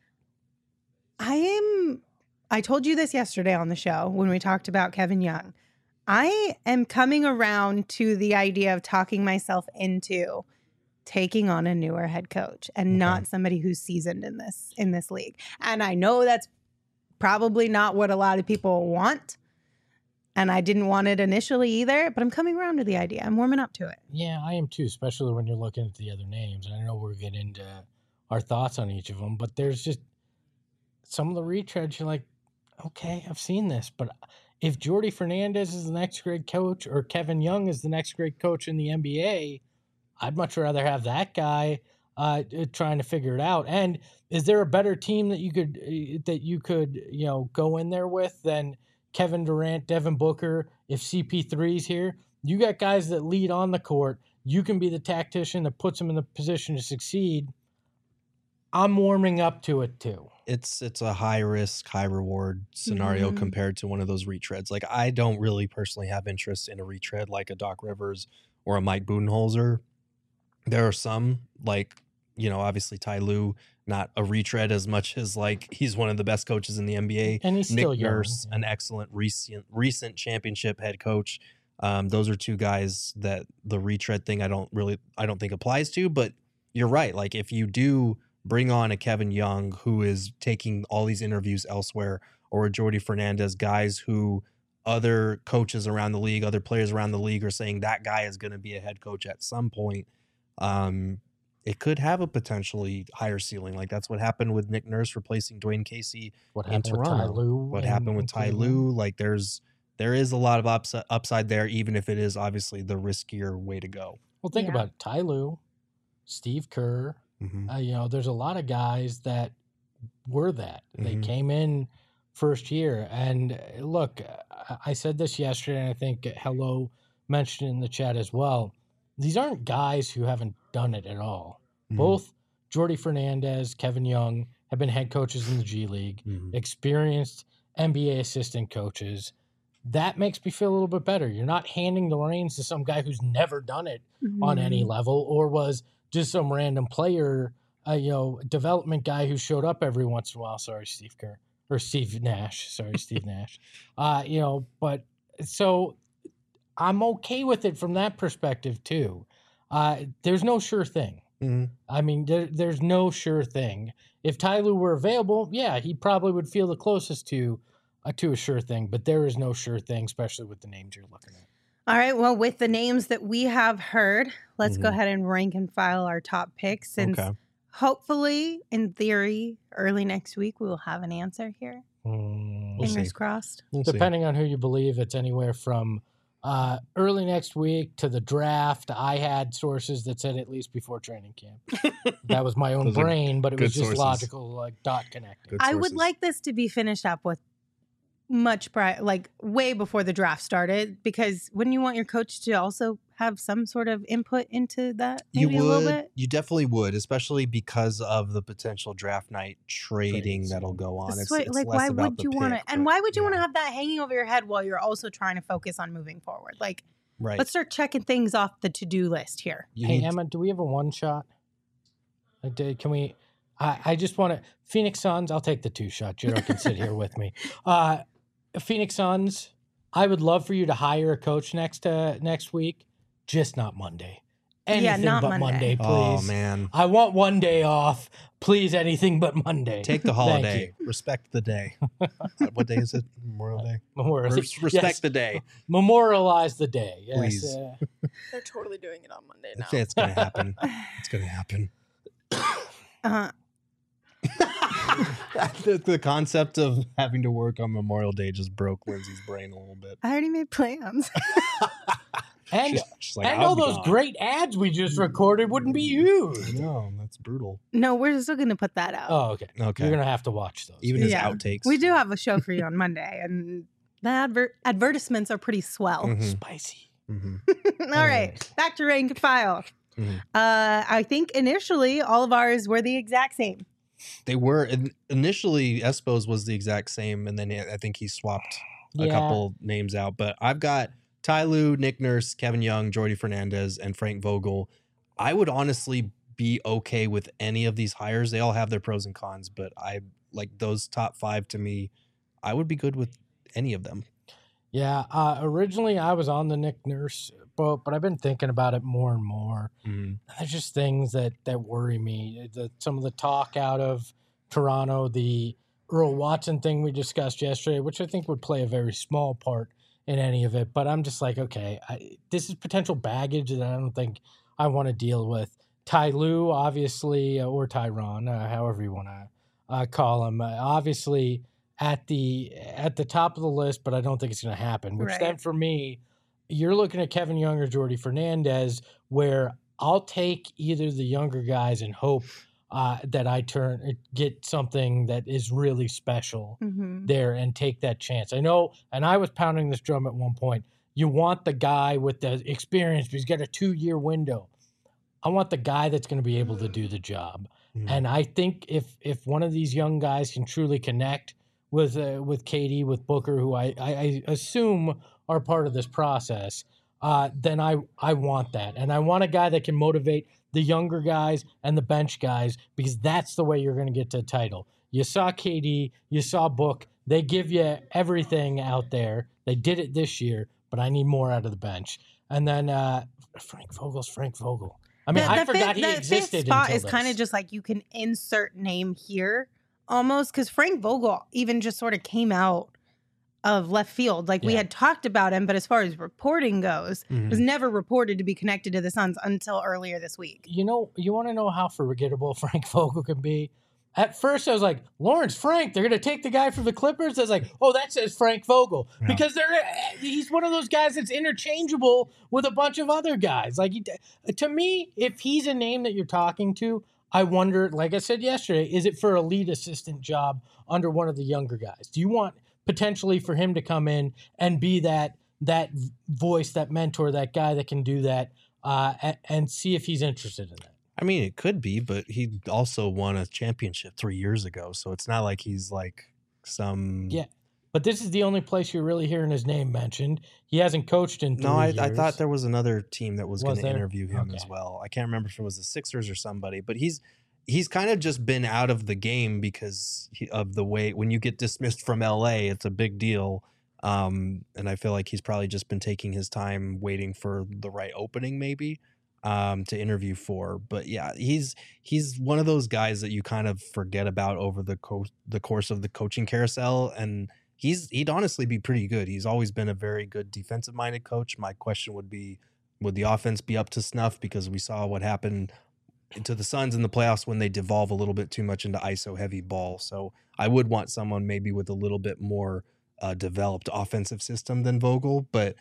I told you this yesterday on the show when we talked about Kevin Young. I am coming around to the idea of talking myself into taking on a newer head coach and not somebody who's seasoned in this league. And I know that's probably not what a lot of people want. And I didn't want it initially either, but I'm coming around to the idea. I'm warming up to it. Yeah, I am too, especially when you're looking at the other names. And I know we'll get into our thoughts on each of them, but there's just some of the retreads you're like, okay, I've seen this. But if Jordi Fernandez is the next great coach or Kevin Young is the next great coach in the NBA, I'd much rather have that guy trying to figure it out. And is there a better team that you could go in there with than Kevin Durant, Devin Booker? If CP3's here, you got guys that lead on the court. You can be the tactician that puts them in the position to succeed. I'm warming up to it too. It's a high risk, high reward scenario compared to one of those retreads. I don't really personally have interest in a retread like a Doc Rivers or a Mike Budenholzer. There are some, obviously Ty Lue, not a retread as much as he's one of the best coaches in the NBA. And he's Nick still young. Nurse, an excellent recent championship head coach. Those are two guys that the retread thing I don't think applies to. But you're right. If you do bring on a Kevin Young who is taking all these interviews elsewhere, or a Jordi Fernandez, guys who other coaches around the league, other players around the league are saying that guy is going to be a head coach at some point. It could have a potentially higher ceiling. That's what happened with Nick Nurse replacing Dwayne Casey in Toronto. What happened with Ty Lue? There is a lot of upside there, even if it is obviously the riskier way to go. Well, think about it. Ty Lue, Steve Kerr. There's a lot of guys that were that. They came in first year. And look, I said this yesterday, and I think Hello mentioned it in the chat as well. These aren't guys who haven't done it at all. Both Jordi Fernandez, Kevin Young have been head coaches in the G League, experienced NBA assistant coaches. That makes me feel a little bit better. You're not handing the reins to some guy who's never done it on any level, or was just some random player, development guy who showed up every once in a while. Sorry, Steve Kerr. Or Steve Nash. Sorry, Steve Nash. But so I'm okay with it from that perspective too. There's no sure thing. I mean, there's no sure thing. If Ty Lue were available, yeah, he probably would feel the closest to a sure thing. But there is no sure thing, especially with the names you're looking at. All right. Well, with the names that we have heard, let's go ahead and rank and file our top picks since hopefully, in theory, early next week, we will have an answer here. We'll Fingers see. crossed. We'll see. Depending on who you believe, it's anywhere from early next week to the draft. I had sources that said at least before training camp. That was my own Those are brain, but it was good just sources. logical, like dot connecting. Good I would sources. like this to be finished up with much prior, like way before the draft started, because wouldn't you want your coach to also have some sort of input into that? Maybe You a little would. bit. You definitely would, especially because of the potential draft night trading Trades, that'll yeah. go on. So, like, less why about would the you want to? pick, And but why would you want to yeah. have that hanging over your head while you're also trying to focus on moving forward? Like, Right. let's start checking things off the to-do list here. You Hey, need- Emma, do we have a one shot? Can we? I just want to. Phoenix Suns, I'll take the 2 shot. Jiro can sit here with me. Phoenix Suns, I would love for you to hire a coach next week, just not Monday. Anything not but Monday, please. Oh man, I want one day off. Please, anything but Monday. take the Thank holiday. you. Respect the day. What day is it? Memorial Day. Respect Yes. the day. Memorialize the day. Yes. Please. They're totally doing it on Monday now. It's gonna happen. It's gonna happen. The concept of having to work on Memorial Day just broke Lindsay's brain a little bit. I already made plans. And She's like, and "I'll all be those gone." great ads we just recorded wouldn't be used. No, that's brutal. No, we're still going to put that out. Oh, okay. Okay. You're gonna have to watch those. Even his Yeah. outtakes. We do have a show for you on Monday, and the advertisements are pretty swell. Mhm. Spicy. Mhm. All right, back to rank and file. Mhm. I think initially all of ours were the exact same. They were initially Espo's was the exact same, and then I think he swapped a couple names out. But I've got Ty Lue, Nick Nurse, Kevin Young, Jordy Fernandez, and Frank Vogel. I would honestly be okay with any of these hires. They all have their pros and cons, but I like those top 5 to me. I would be good with any of them. Yeah. Originally, I was on the Nick Nurse boat, but I've been thinking about it more and more. There's just things that worry me. Some of the talk out of Toronto, the Earl Watson thing we discussed yesterday, which I think would play a very small part in any of it. But I'm just like, okay, this is potential baggage that I don't think I want to deal with. Ty Lue, obviously, or Tyron, however you want to call him, obviously at the top of the list, but I don't think it's going to happen. Which Right. then for me, you're looking at Kevin Young or Jordy Fernandez, where I'll take either the younger guys and hope that I get something that is really special Mm-hmm. there and take that chance. I know, and I was pounding this drum at one point. You want the guy with the experience, but he's got a 2-year window. I want the guy that's going to be able to do the job. Mhm. And I think if one of these young guys can truly connect with Katie, with Booker, who I assume are part of this process, then I want that. And I want a guy that can motivate the younger guys and the bench guys, because that's the way you're going to get to a title. You saw KD, you saw Book. They give you everything out there. They did it this year, but I need more out of the bench. And then Frank Vogel's Frank Vogel. I mean, I forgot he existed. The fifth spot until is kind of this. just like you can insert name here almost, because Frank Vogel even just sort of came out of left field. Like we Yeah. had talked about him, but as far as reporting goes, Mhm. was never reported to be connected to the Suns until earlier this week. You know, you want to know how forgettable Frank Vogel can be? At first, I was like, Lawrence Frank, they're going to take the guy from the Clippers. I was like, oh, that says Frank Vogel. Yeah. Because he's one of those guys that's interchangeable with a bunch of other guys. Like, to me, if he's a name that you're talking to, I wonder, like I said yesterday, is it for a lead assistant job under one of the younger guys? Do you want potentially for him to come in and be that voice, that mentor, that guy that can do that, and see if he's interested in that? I mean, it could be, but he also won a championship 3 years ago, so it's not like he's like some. Yeah. But this is the only place you're really hearing his name mentioned. He hasn't coached in 3 No, years. I thought there was another team that was going to there? interview him as Okay. well. I can't remember if it was the Sixers or somebody, but he's kind of just been out of the game because of the way when you get dismissed from LA, it's a big deal. And I feel like he's probably just been taking his time waiting for the right opening, maybe. To interview for, but yeah, he's one of those guys that you kind of forget about over the course of the coaching carousel, and he'd honestly be pretty good. He's always been a very good defensive minded coach. My question would be, would the offense be up to snuff? Because we saw what happened into the Suns in the playoffs when they devolve a little bit too much into ISO heavy ball. So I would want someone maybe with a little bit more developed offensive system than Vogel, but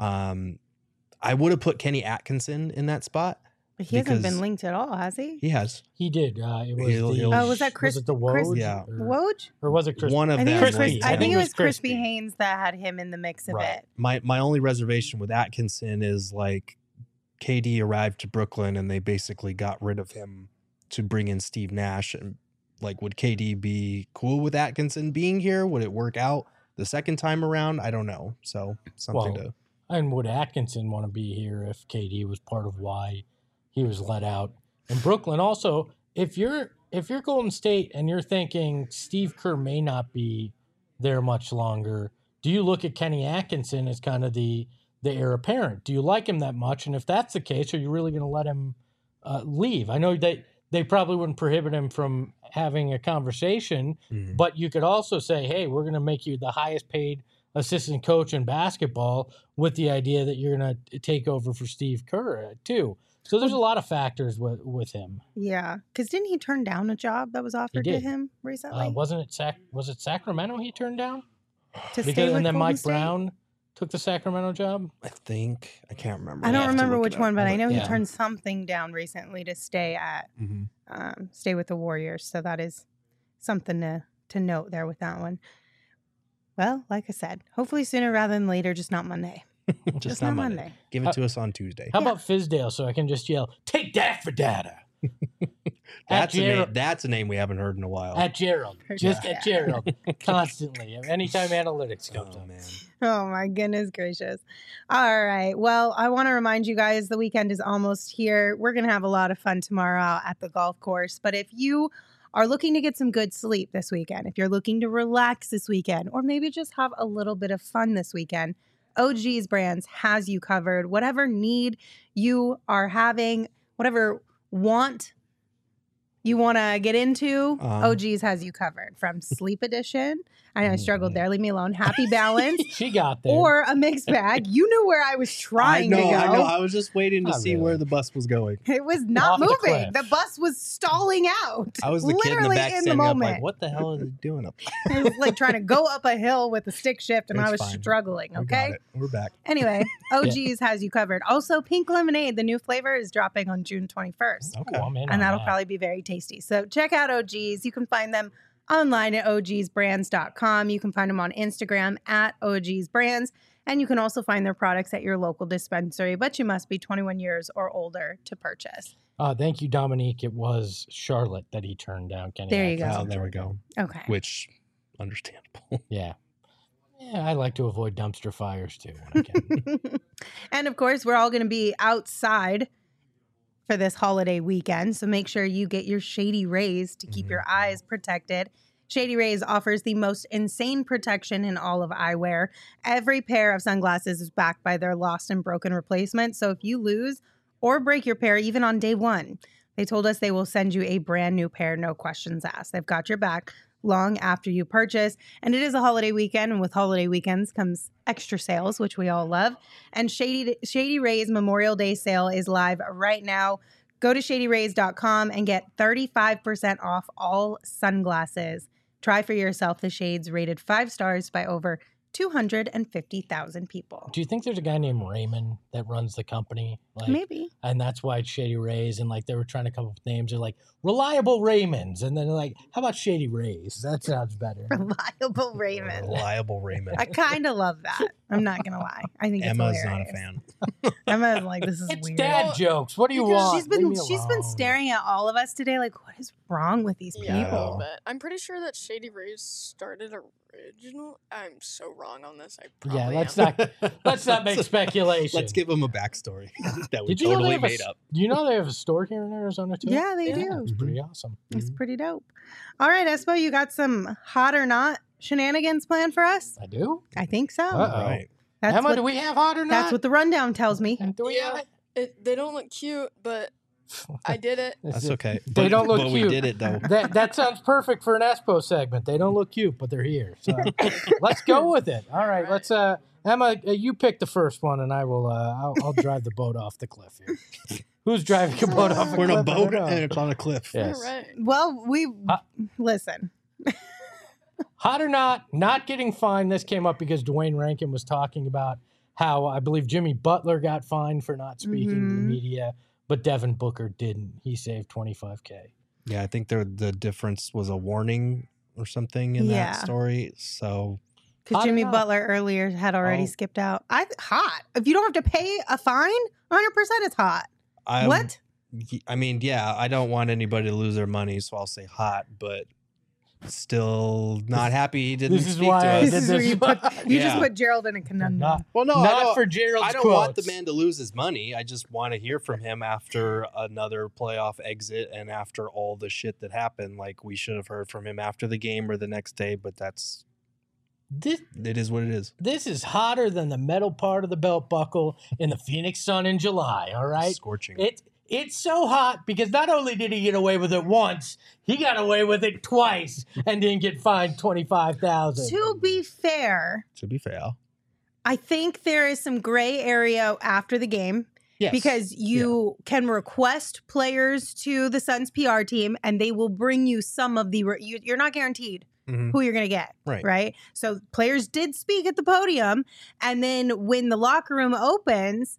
I would have put Kenny Atkinson in that spot. But he hasn't because been linked at all, has he? He has. He did. It was He'll- Oh, was that Chris? Was it the Chris- Woj? Yeah. Woj? Or was it Chris? One of I think, them. it was Chris, Crispy. I think it was Crispy Crispy. Haynes that had him in the mix of Right. it. My only reservation with Atkinson is like KD arrived to Brooklyn and they basically got rid of him to bring in Steve Nash. And like, would KD be cool with Atkinson being here? Would it work out the second time around? I don't know. So something Well, to. And would Atkinson want to be here if KD was part of why he was let out? And Brooklyn also, if you're Golden State and you're thinking Steve Kerr may not be there much longer, do you look at Kenny Atkinson as kind of the heir apparent? Do you like him that much? And if that's the case, are you really going to let him leave? I know that they probably wouldn't prohibit him from having a conversation, Mhm. but you could also say, hey, we're going to make you the highest paid assistant coach in basketball with the idea that you're going to take over for Steve Kerr too. So there's a lot of factors with him. Yeah, because didn't he turn down a job that was offered to did. him recently? Wasn't it was it Sacramento he turned down? to stay Because, with and then Golden Mike State? Brown took the Sacramento job. I think I can't remember. I I'll don't have to remember look which it up. one, but I know he Yeah. turned something down recently to stay Mhm. stay with the Warriors. So that is something to note there with that one. Well, like I said, hopefully sooner rather than later, just not Monday. Just not Monday. Give it to us on Tuesday. How about Fizdale so I can just yell, take that for data? That's a name. Gerald. That's a name we haven't heard in a while. At Gerald. Just at Gerald. Constantly. Anytime analytics comes Oh up. man. Oh my goodness gracious. All right. Well, I want to remind you guys the weekend is almost here. We're going to have a lot of fun tomorrow out at the golf course. But if you are looking to get some good sleep this weekend, if you're looking to relax this weekend, or maybe just have a little bit of fun this weekend, OG's Brands has you covered. Whatever need you are having, whatever want you want to get into, OG's has you covered. From Sleep Edition, I know I struggled there, leave me alone, Happy Balance, She got there. or a mixed bag. You knew where I was trying to go. I know. I was just waiting to Not see really. where the bus was going. It was not Off the moving. cliff. The bus was stalling out. I was the kid in the Literally back in the standing up moment. like, what the hell is he doing up there? It was like trying to go up a hill with a stick shift, and It's I was fine. struggling. We got Okay. it. We're back. Anyway, OG's has you covered. Also, Pink Lemonade, the new flavor, is dropping on June 21st. Okay. Oh, I'm in on And that'll that. probably be very tasty. So check out OG's. You can find them online at ogsbrands.com. You can find them on Instagram at ogsbrands. And you can also find their products at your local dispensary, but you must be 21 years or older to purchase. Thank you, Dominique. It was Charlotte that he turned down. Kenny There you go. Atkinson Oh, there we turned go. Okay. Which, understandable. Yeah. Yeah, I like to avoid dumpster fires too when I can. And of course, we're all going to be outside for this holiday weekend. So make sure you get your Shady Rays to keep your eyes protected. Shady Rays offers the most insane protection in all of eyewear. Every pair of sunglasses is backed by their lost and broken replacement. So if you lose or break your pair, even on day one, they told us they will send you a brand new pair, no questions asked. They've got your back long after you purchase. And it is a holiday weekend, and with holiday weekends comes extra sales, which we all love. And Shady Rays Memorial Day sale is live right now. Go to shadyrays.com and get 35% off all sunglasses. Try for yourself the shades rated 5 stars by over 250,000 people. Do you think there's a guy named Raymond that runs the company? Like, Maybe. And that's why it's Shady Rays. And like they were trying to come up with names. They're like Reliable Raymonds. And then they're like, how about Shady Rays? That sounds better. Reliable Raymond. Reliable Raymond. I kind of love that. I'm not going to lie. I think Emma's it's not a hilarious. fan. Emma's like, this is It's weird. dad jokes. What do you Because want? She's been Leave me alone. staring at all of us today like, what is wrong with these Yeah, a people? little bit. I'm pretty sure that Shady Rays started original. I'm so wrong on this. I probably Yeah, am. let's not make speculation. Let's give them a backstory that we Did you know they totally have a made s- up. Do you know they have a store here in Arizona too? Yeah, they do. It's pretty awesome. It's pretty dope. All right, Espo, you got some hot or not shenanigans planned for us? I do. I think so. Uh-oh. Right. That's Emma, what, do we have hot or not? that's what the rundown tells me. Do we have Yeah, it? they don't look cute, but I did it. That's okay. They don't look but cute. we did it though. That sounds perfect for an Espo segment. They don't look cute, but they're here. So let's go with it. All right, let's Emma, you pick the first one, and I will. I'll drive the boat off the cliff here. Who's driving a boat off a We're cliff? in a I don't boat know. and it's on a cliff. Yes. All right. Well, listen. Hot or not getting fined. This came up because Dwayne Rankin was talking about how I believe Jimmy Butler got fined for not speaking to the media, but Devin Booker didn't. He saved $25K. Yeah, I think the difference was a warning or something in that story. So Because Jimmy Butler earlier had already skipped out. Hot. If you don't have to pay a fine, 100% it's hot. What? I mean, yeah, I don't want anybody to lose their money, so I'll say hot, but still not happy he didn't speak to us. This is where you just put Gerald in a conundrum. Not for Gerald's I don't want the man to lose his money. I just want to hear from him after another playoff exit and after all the shit that happened. Like, we should have heard from him after the game or the next day, but it is what it is. This is hotter than the metal part of the belt buckle in the Phoenix Sun in July, all right? Scorching. It's so hot because not only did he get away with it once, he got away with it twice and didn't get fined $25,000. To be fair, I think there is some gray area after the game. Yes. Because you can request players to the Suns PR team and they will bring you some of the you're not guaranteed who you're going to get, right? So players did speak at the podium, and then when the locker room opens,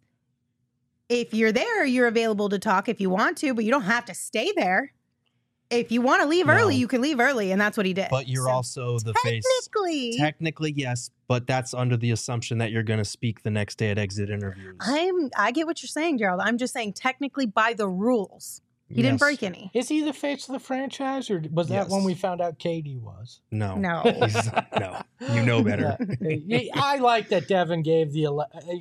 if you're there, you're available to talk if you want to, but you don't have to stay there. If you want to leave early, you can leave early, and that's what he did. But you're also the face. Technically, yes, but that's under the assumption that you're going to speak the next day at exit interviews. I get what you're saying, Gerald. I'm just saying technically by the rules. He didn't break any. Is he the face of the franchise, or was that when we found out KD was? No. No. No. You know better. I like that Devin gave the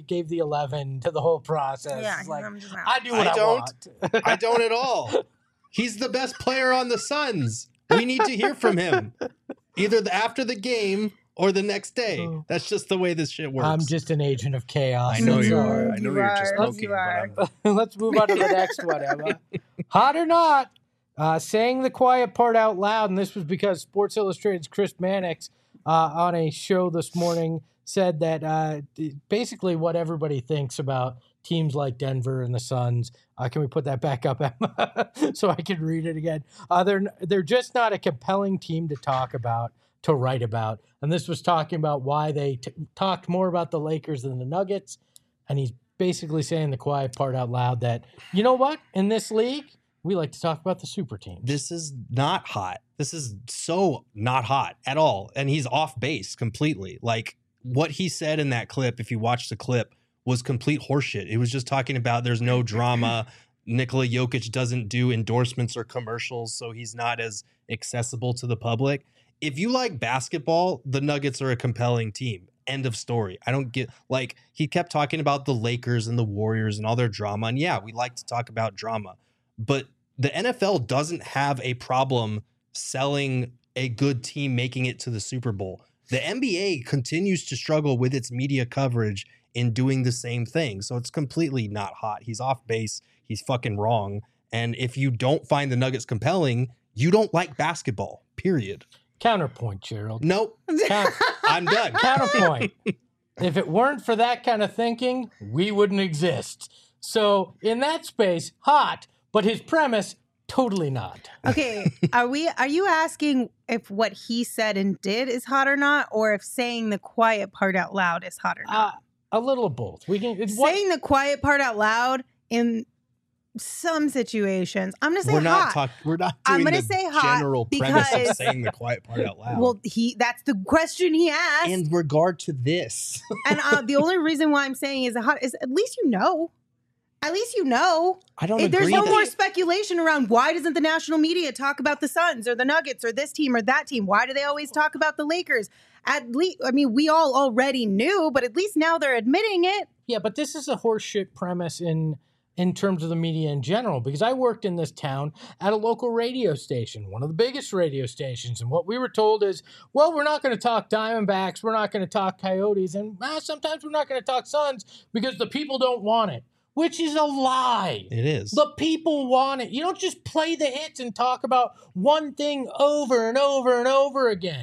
11 to the whole process. Yeah, it's like, I'm just not. I do what I want. I don't at all. He's the best player on the Suns. We need to hear from him. Either after the game or the next day. That's just the way this shit works. I'm just an agent of chaos. I know you are. I know you're just poking. Let's move on to the next one, Emma. Hot or not, saying the quiet part out loud, and this was because Sports Illustrated's Chris Mannix on a show this morning said that basically what everybody thinks about teams like Denver and the Suns. Can we put that back up, Emma, so I can read it again? They're just not a compelling team to talk about, to write about. And this was talking about why they talked more about the Lakers than the Nuggets. And he's basically saying the quiet part out loud that, you know what? In this league, we like to talk about the super teams. This is not hot. This is so not hot at all. And he's off base completely. Like, what he said in that clip, if you watch the clip, was complete horseshit. It was just talking about there's no drama. Nikola Jokic doesn't do endorsements or commercials, so he's not as accessible to the public. If you like basketball, the Nuggets are a compelling team. End of story. I don't get, like, he kept talking about the Lakers and the Warriors and all their drama. And yeah, we like to talk about drama. But the NFL doesn't have a problem selling a good team making it to the Super Bowl. The NBA continues to struggle with its media coverage in doing the same thing. So it's completely not hot. He's off base. He's fucking wrong. And if you don't find the Nuggets compelling, you don't like basketball, period. Counterpoint, Gerald. Nope. I'm done. Counterpoint. If it weren't for that kind of thinking, we wouldn't exist. So in that space, hot, but his premise, totally not. Okay, are you asking if what he said and did is hot or not, or if saying the quiet part out loud is hot or not? A little of both. We can saying the quiet part out loud in some situations. I'm gonna say hot. We're not I'm doing gonna the say hot general premise of saying the quiet part out loud. Well, that's the question he asked. In regard to this. And the only reason why I'm saying is hot is at least you know. At least you know. I don't agree. There's no more speculation around why doesn't the national media talk about the Suns or the Nuggets or this team or that team? Why do they always talk about the Lakers? At least, I mean, we all already knew, but at least now they're admitting it. Yeah, but this is a horseshit premise in terms of the media in general, because I worked in this town at a local radio station, one of the biggest radio stations. And what we were told is, well, we're not going to talk Diamondbacks. We're not going to talk Coyotes. And sometimes we're not going to talk Suns because the people don't want it. Which is a lie. It is. The people want it. You don't just play the hits and talk about one thing over and over and over again.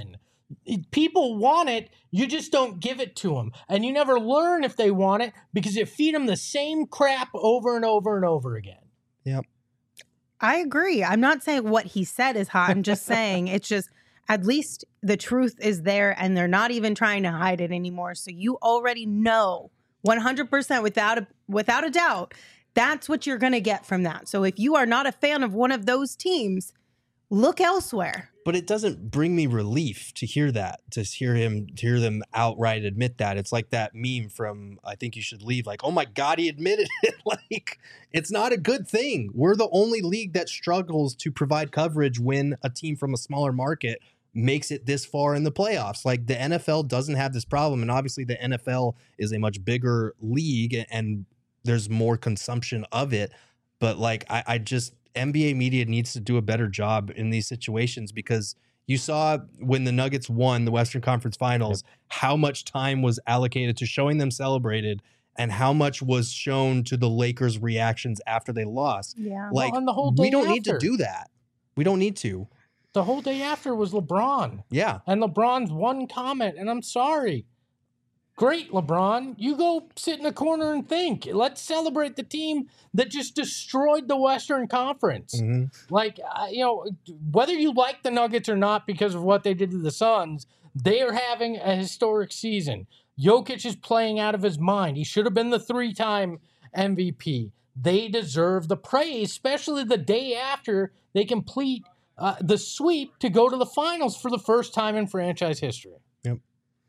People want it, you just don't give it to them. And you never learn if they want it because you feed them the same crap over and over and over again. Yep. I agree. I'm not saying what he said is hot. I'm just saying it's just at least the truth is there and they're not even trying to hide it anymore. So you already know 100% without a doubt that's what you're going to get from that. So if you are not a fan of one of those teams, look elsewhere. But it doesn't bring me relief to hear that, to hear them outright admit that. It's like that meme from I Think You Should Leave, like, oh my God, he admitted it. Like, it's not a good thing. We're the only league that struggles to provide coverage when a team from a smaller market makes it this far in the playoffs. Like, the NFL doesn't have this problem. And obviously the NFL is a much bigger league and there's more consumption of it. But like, I just, NBA media needs to do a better job in these situations because you saw when the Nuggets won the Western Conference Finals, how much time was allocated to showing them celebrated and how much was shown to the Lakers' reactions after they lost. Yeah. Like, and the whole day we don't need to after. do that. We don't need to. The whole day after was LeBron. Yeah. And LeBron's one comment, and I'm sorry. Great, LeBron. You go sit in a corner and think. Let's celebrate the team that just destroyed the Western Conference. Mm-hmm. Like, whether you like the Nuggets or not because of what they did to the Suns, they are having a historic season. Jokic is playing out of his mind. He should have been the 3-time MVP. They deserve the praise, especially the day after they complete the sweep to go to the finals for the first time in franchise history. Yep.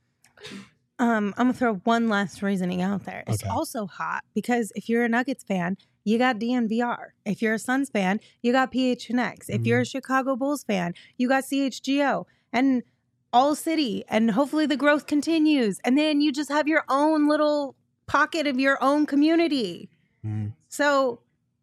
I'm going to throw one last reasoning out there. It's also hot because if you're a Nuggets fan, you got DNVR. If you're a Suns fan, you got PHNX. If you're a Chicago Bulls fan, you got CHGO and All City. And hopefully the growth continues. And then you just have your own little pocket of your own community. So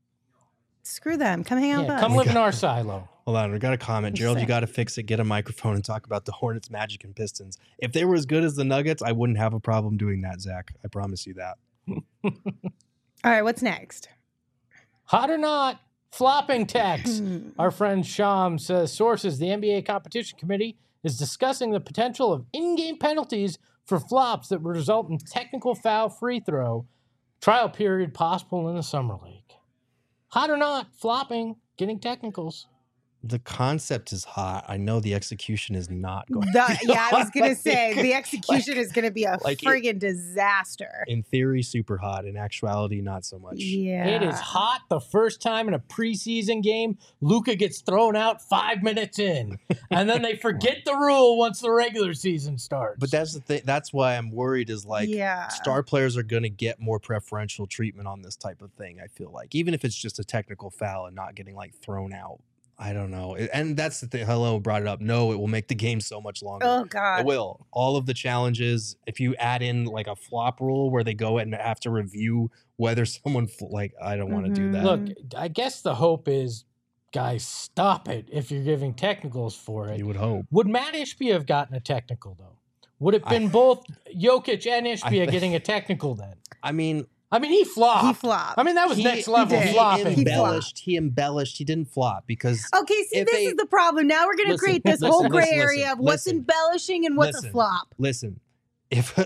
screw them. Come hang out with us. Come live in our silo. Hold on, we got a comment. Gerald, you got to fix it. Get a microphone and talk about the Hornets, Magic, and Pistons. If they were as good as the Nuggets, I wouldn't have a problem doing that, Zach. I promise you that. All right, what's next? Hot or not, flopping text. Our friend Sham says, sources, the NBA Competition Committee is discussing the potential of in-game penalties for flops that would result in technical foul free throw. Trial period possible in the Summer League. Hot or not, flopping, getting technicals. The concept is hot. I know the execution is not going I was going to say, the execution is going to be a friggin' disaster. In theory, super hot. In actuality, not so much. Yeah. It is hot the first time in a preseason game. Luka gets thrown out 5 minutes in. And then they forget the rule once the regular season starts. But that's the thing. That's why I'm worried is like star players are going to get more preferential treatment on this type of thing, I feel like. Even if it's just a technical foul and not getting like thrown out. I don't know. And that's the thing. Hello brought it up. No, it will make the game so much longer. Oh, God. It will. All of the challenges, if you add in like a flop rule where they go and have to review whether someone, I don't want to do that. Look, I guess the hope is, guys, stop it if you're giving technicals for it. You would hope. Would Matt Ishbia have gotten a technical, though? Would it have been both Jokic and Ishbia getting a technical then? I mean, he flopped. He flopped. I mean, that was next level flopping. He embellished. He didn't flop because... Okay, see, this is the problem. Now we're going to create this whole gray area of what's embellishing and what's a flop. Listen, if a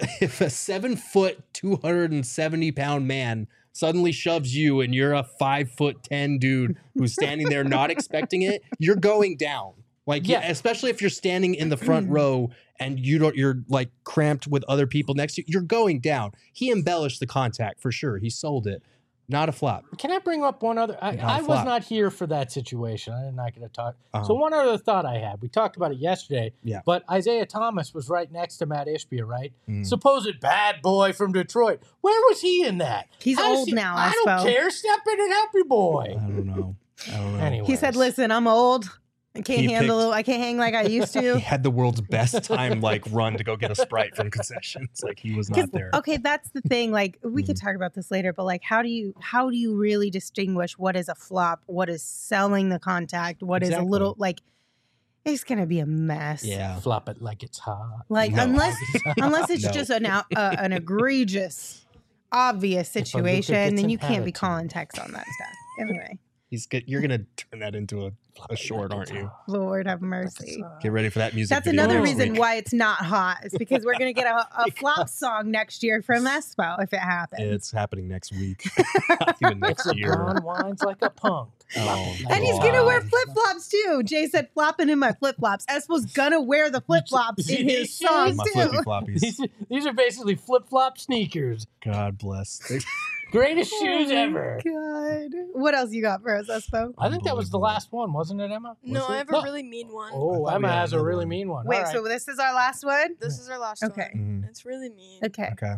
7-foot, 270-pound man suddenly shoves you and you're a 5'10" dude who's standing there not expecting it, you're going down. Like, especially if you're standing in the front row and you're like cramped with other people next to you, you're going down. He embellished the contact for sure. He sold it. Not a flop. Can I bring up one other? I was not here for that situation. I'm not going to talk. So one other thought I had. We talked about it yesterday. Yeah. But Isaiah Thomas was right next to Matt Ishbia, right? Supposed bad boy from Detroit. Where was he in that? He's old now, I don't care. Step in and help your boy. I don't know. Anyways. He said, listen, I'm old. I can't I can't hang like I used to. He had the world's best time run to go get a Sprite from concessions. Like he was not there. Okay, that's the thing. Like we could talk about this later, but like how do you really distinguish what is a flop, what is selling the contact, what is a little like it's gonna be a mess. Yeah. Flop it like it's hot. Like unless it's just an egregious, obvious situation, then you can't be calling text on that stuff. Anyway. You're gonna turn that into a short, aren't you? Lord have mercy. Get ready for that music. That's video another next reason week. why it's not hot. It's because we're going to get a flop song next year from Espo if it happens. It's happening next week. Not even next year. LeBron whines like a punk. Oh, And he's going to wear flip-flops too. Jay said flopping in my flip-flops. Espo's going to wear the flip-flops in his song my too. flippy floppies. These are basically flip-flop sneakers. God bless. Greatest shoes ever. God. What else you got for us, Espo? I think that was the last one, wasn't it, Emma? No, Was I it? have a No. really mean one. Oh, I thought we Emma had has a another really one. mean one. Wait, All right. so this is our last one? This is our last Okay. one. Mhm. It's really mean. Okay. Okay.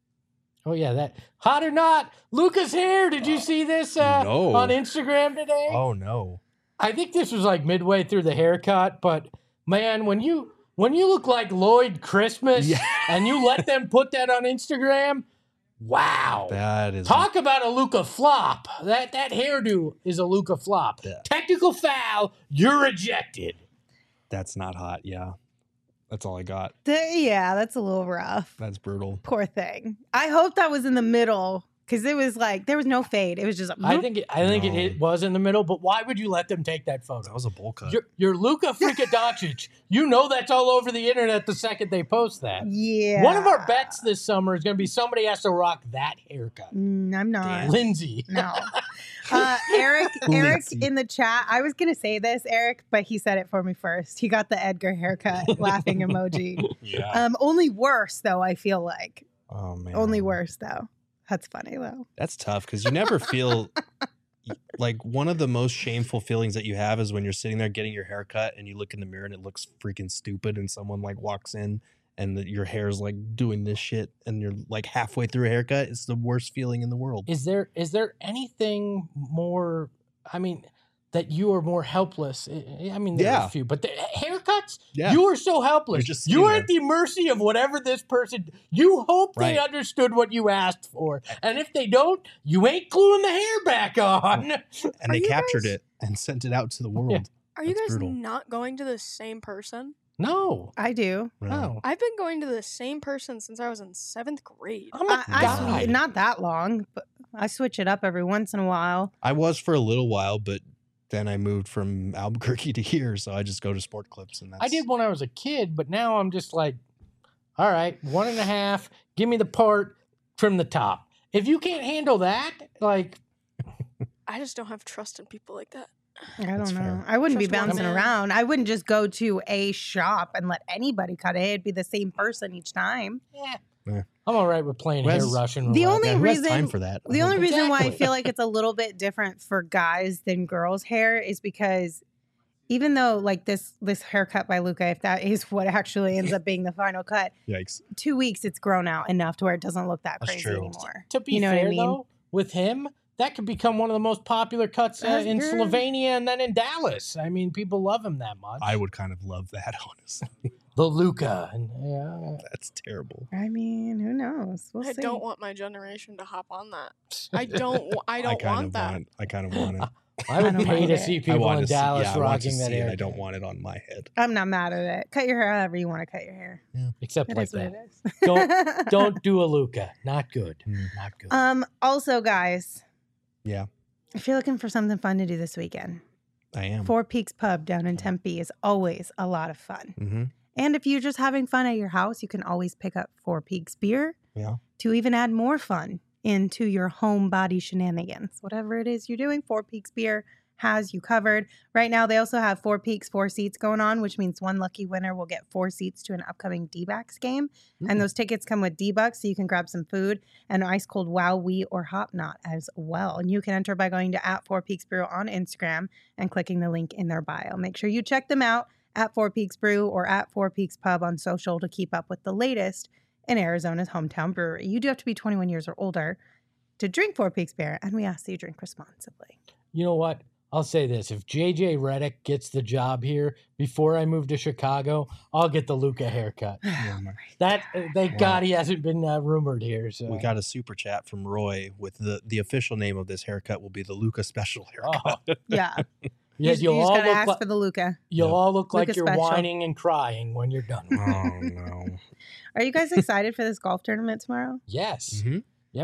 Oh yeah, that hot or not, Luca's hair. Did you see this No. on Instagram today? Oh no. I think this was like midway through the haircut, but man, when you look like Lloyd Christmas Yeah. and you let them put that on Instagram, wow. That is Talk about a Luca flop. That hairdo is a Luca flop. Yeah. Technical foul, you're ejected. that's not hot. Yeah. That's all I got. Yeah, that's a little rough. That's brutal. Poor thing. I hope that was in the middle because it was like there was no fade. It was just. I think No. it was in the middle, but why would you let them take that photo? That was a bowl cut. You're Luka freaking Doncic. You know that's all over the internet the second they post that. Yeah. One of our bets this summer is going to be somebody has to rock that haircut. I'm not. Lindsay. No. Eric Lindsay. in the chat. I was gonna say this, Eric, but he said it for me first. He got the Edgar haircut, laughing emoji. Yeah. Only worse though. I feel like Oh man. only worse though. That's funny though. That's tough because you never feel like one of the most shameful feelings that you have is when you're sitting there getting your hair cut and you look in the mirror and it looks freaking stupid and someone like walks in and your hair's like doing this shit and you're like halfway through a haircut. It's the worst feeling in the world. Is there anything more, I mean, that you are more helpless? I mean, there are Yeah. a few, but the haircuts, Yeah. you are so helpless. You're just You sitting are there. at the mercy of whatever this person, you hope they Right. understood what you asked for. And if they don't, you ain't gluing the hair back on. And Are they you captured guys- it and sent it out to the world. Are you That's guys brutal. not going to the same person? No. I do. No. I've been going to the same person since I was in 7th grade. I'm a guy. Not that long, but I switch it up every once in a while. I was for a little while, but then I moved from Albuquerque to here, so I just go to Sport Clips, and that's I did when I was a kid, but now I'm just like, all right, 1.5, give me the part, trim the top. If you can't handle that, like, I just don't have trust in people like that. I don't That's know. fair. I wouldn't be Trust one bouncing man. around. I wouldn't just go to a shop and let anybody cut it. It'd be the same person each time. I'm all right with playing Wes- hair Russian The roulette. only Yeah, who has reason- time for that? The only reason why I Exactly. feel like it's a little bit different for guys than girls' hair is because even though like this haircut by Luca, if that is what actually ends up being the final cut, Yikes. 2 weeks it's grown out enough to where it doesn't look that That's crazy true. anymore. To be You know what I fair, mean? though, with him, that could become one of the most popular cuts That's in good. Slovenia and then in Dallas. I mean, people love him that much. I would kind of love that, honestly. The Luca. And, yeah. That's terrible. I mean, who knows? We'll I see. don't want my generation to hop on that. I don't want that. I kind of want it. I would don't pay mind to it. see I people want in to see, Dallas yeah, I want to rocking that see it. hair. I don't want it on my head. I'm not mad at it. Cut your hair however you want to cut your hair. Except It like is what that. it is. Don't do a Luca. Not good. Not good. Also, guys, Yeah, if you're looking for something fun to do this weekend, I am. Four Peaks Pub down in Tempe is always a lot of fun. Mm-hmm. And if you're just having fun at your house, you can always pick up Four Peaks beer Yeah. to even add more fun into your home body shenanigans. Whatever it is you're doing, Four Peaks beer has you covered. Right now, they also have Four Peaks 4 seats going on, which means one lucky winner will get 4 seats to an upcoming D-backs game. And those tickets come with D-bucks, so you can grab some food and ice cold Wow, Wee, or Hop Knot as well. And you can enter by going to @4peaksbrew on Instagram and clicking the link in their bio. Make sure you check them out at 4 Peaks Brew or at 4 Peaks Pub on social to keep up with the latest in Arizona's hometown brewery. You do have to be 21 years or older to drink 4 Peaks beer, and we ask that you drink responsibly. You know what? I'll say this. If JJ Redick gets the job here before I move to Chicago, I'll get the Luca haircut. That thank God he hasn't been rumored here. So We got a super chat from Roy with the official name of this haircut will be the Luca Special haircut. Oh, Yeah. yeah, you you'll just all gotta look ask like for the Luca. you'll all look like Luca you're special. whining and crying when you're done. Oh no. Are you guys excited for this golf tournament tomorrow? Yes. Mm-hmm. Yeah,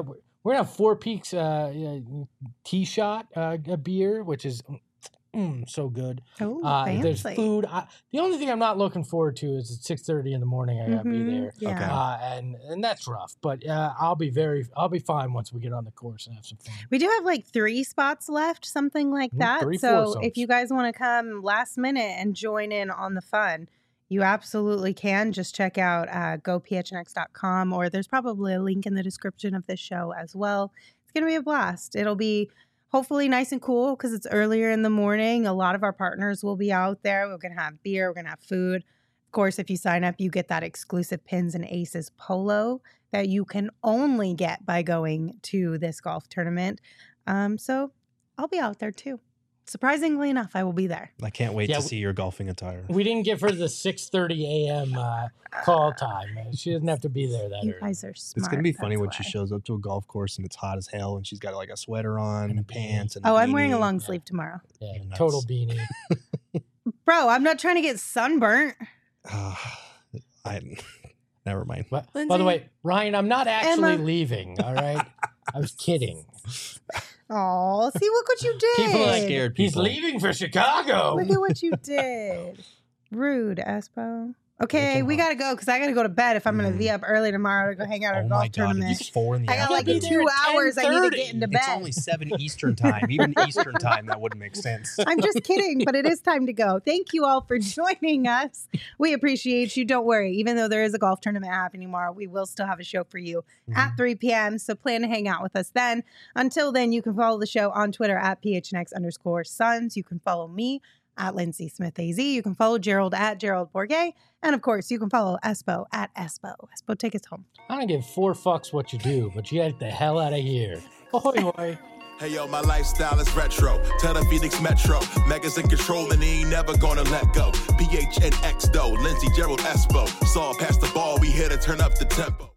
We're gonna have Four Peaks Tea Shot a beer, which is so good. Oh, there's food. The only thing I'm not looking forward to is at 6:30 in the morning. I gotta be there. Yeah. And that's rough. But I'll be fine once we get on the course and have some fun. We do have like 3 spots left, something like that. 3 So foursomes. if you guys want to come last minute and join in on the fun, you absolutely can. Just check out gophnx.com, or there's probably a link in the description of this show as well. It's going to be a blast. It'll be hopefully nice and cool because it's earlier in the morning. A lot of our partners will be out there. We're going to have beer. We're going to have food. Of course, if you sign up, you get that exclusive Pins and Aces polo that you can only get by going to this golf tournament. So I'll be out there too. Surprisingly enough, I will be there. I can't wait to see your golfing attire. We didn't give her the 6:30 a.m. Call time. She doesn't have to be there that You early. guys are smart. It's going to be funny that's when why. she shows up to a golf course and it's hot as hell and she's got like a sweater on and pants. And Oh, I'm wearing a beanie. long sleeve tomorrow. Yeah, Nuts. total beanie. Bro, I'm not trying to get sunburnt. Never mind. But, by Lindsay? the way, Ryan, I'm not actually Emma. leaving. All right, I was kidding. Oh, see, look what you did. People are scared He's people. leaving for Chicago. Look at what you did. Rude, Espo. Okay, Make him we hot. got to go because I got to go to bed if I'm going to be up early tomorrow to go hang out at a Oh golf my God, tournament. it's 4 in the I got like afternoon. 2 hours I need to 10:30. get into bed. It's only 7 Eastern time. Even Eastern time, that wouldn't make sense. I'm just kidding, but it is time to go. Thank you all for joining us. We appreciate you. Don't worry. Even though there is a golf tournament happening tomorrow, we will still have a show for you at 3 p.m. So plan to hang out with us then. Until then, you can follow the show on Twitter at PHNX_Suns. You can follow me at Lindsay Smith AZ. You can follow Gerald at Gerald Bourget. And of course, you can follow Espo at Espo. Espo, take us home. I don't give 4 fucks what you do, but you get the hell out of here. Hoy hoy. Hey yo, my lifestyle is retro. Tell the Phoenix Metro. Megas in control and he ain't never gonna let go. PHNX though, Lindsay, Gerald, Espo. Saw past the ball, we here to turn up the tempo.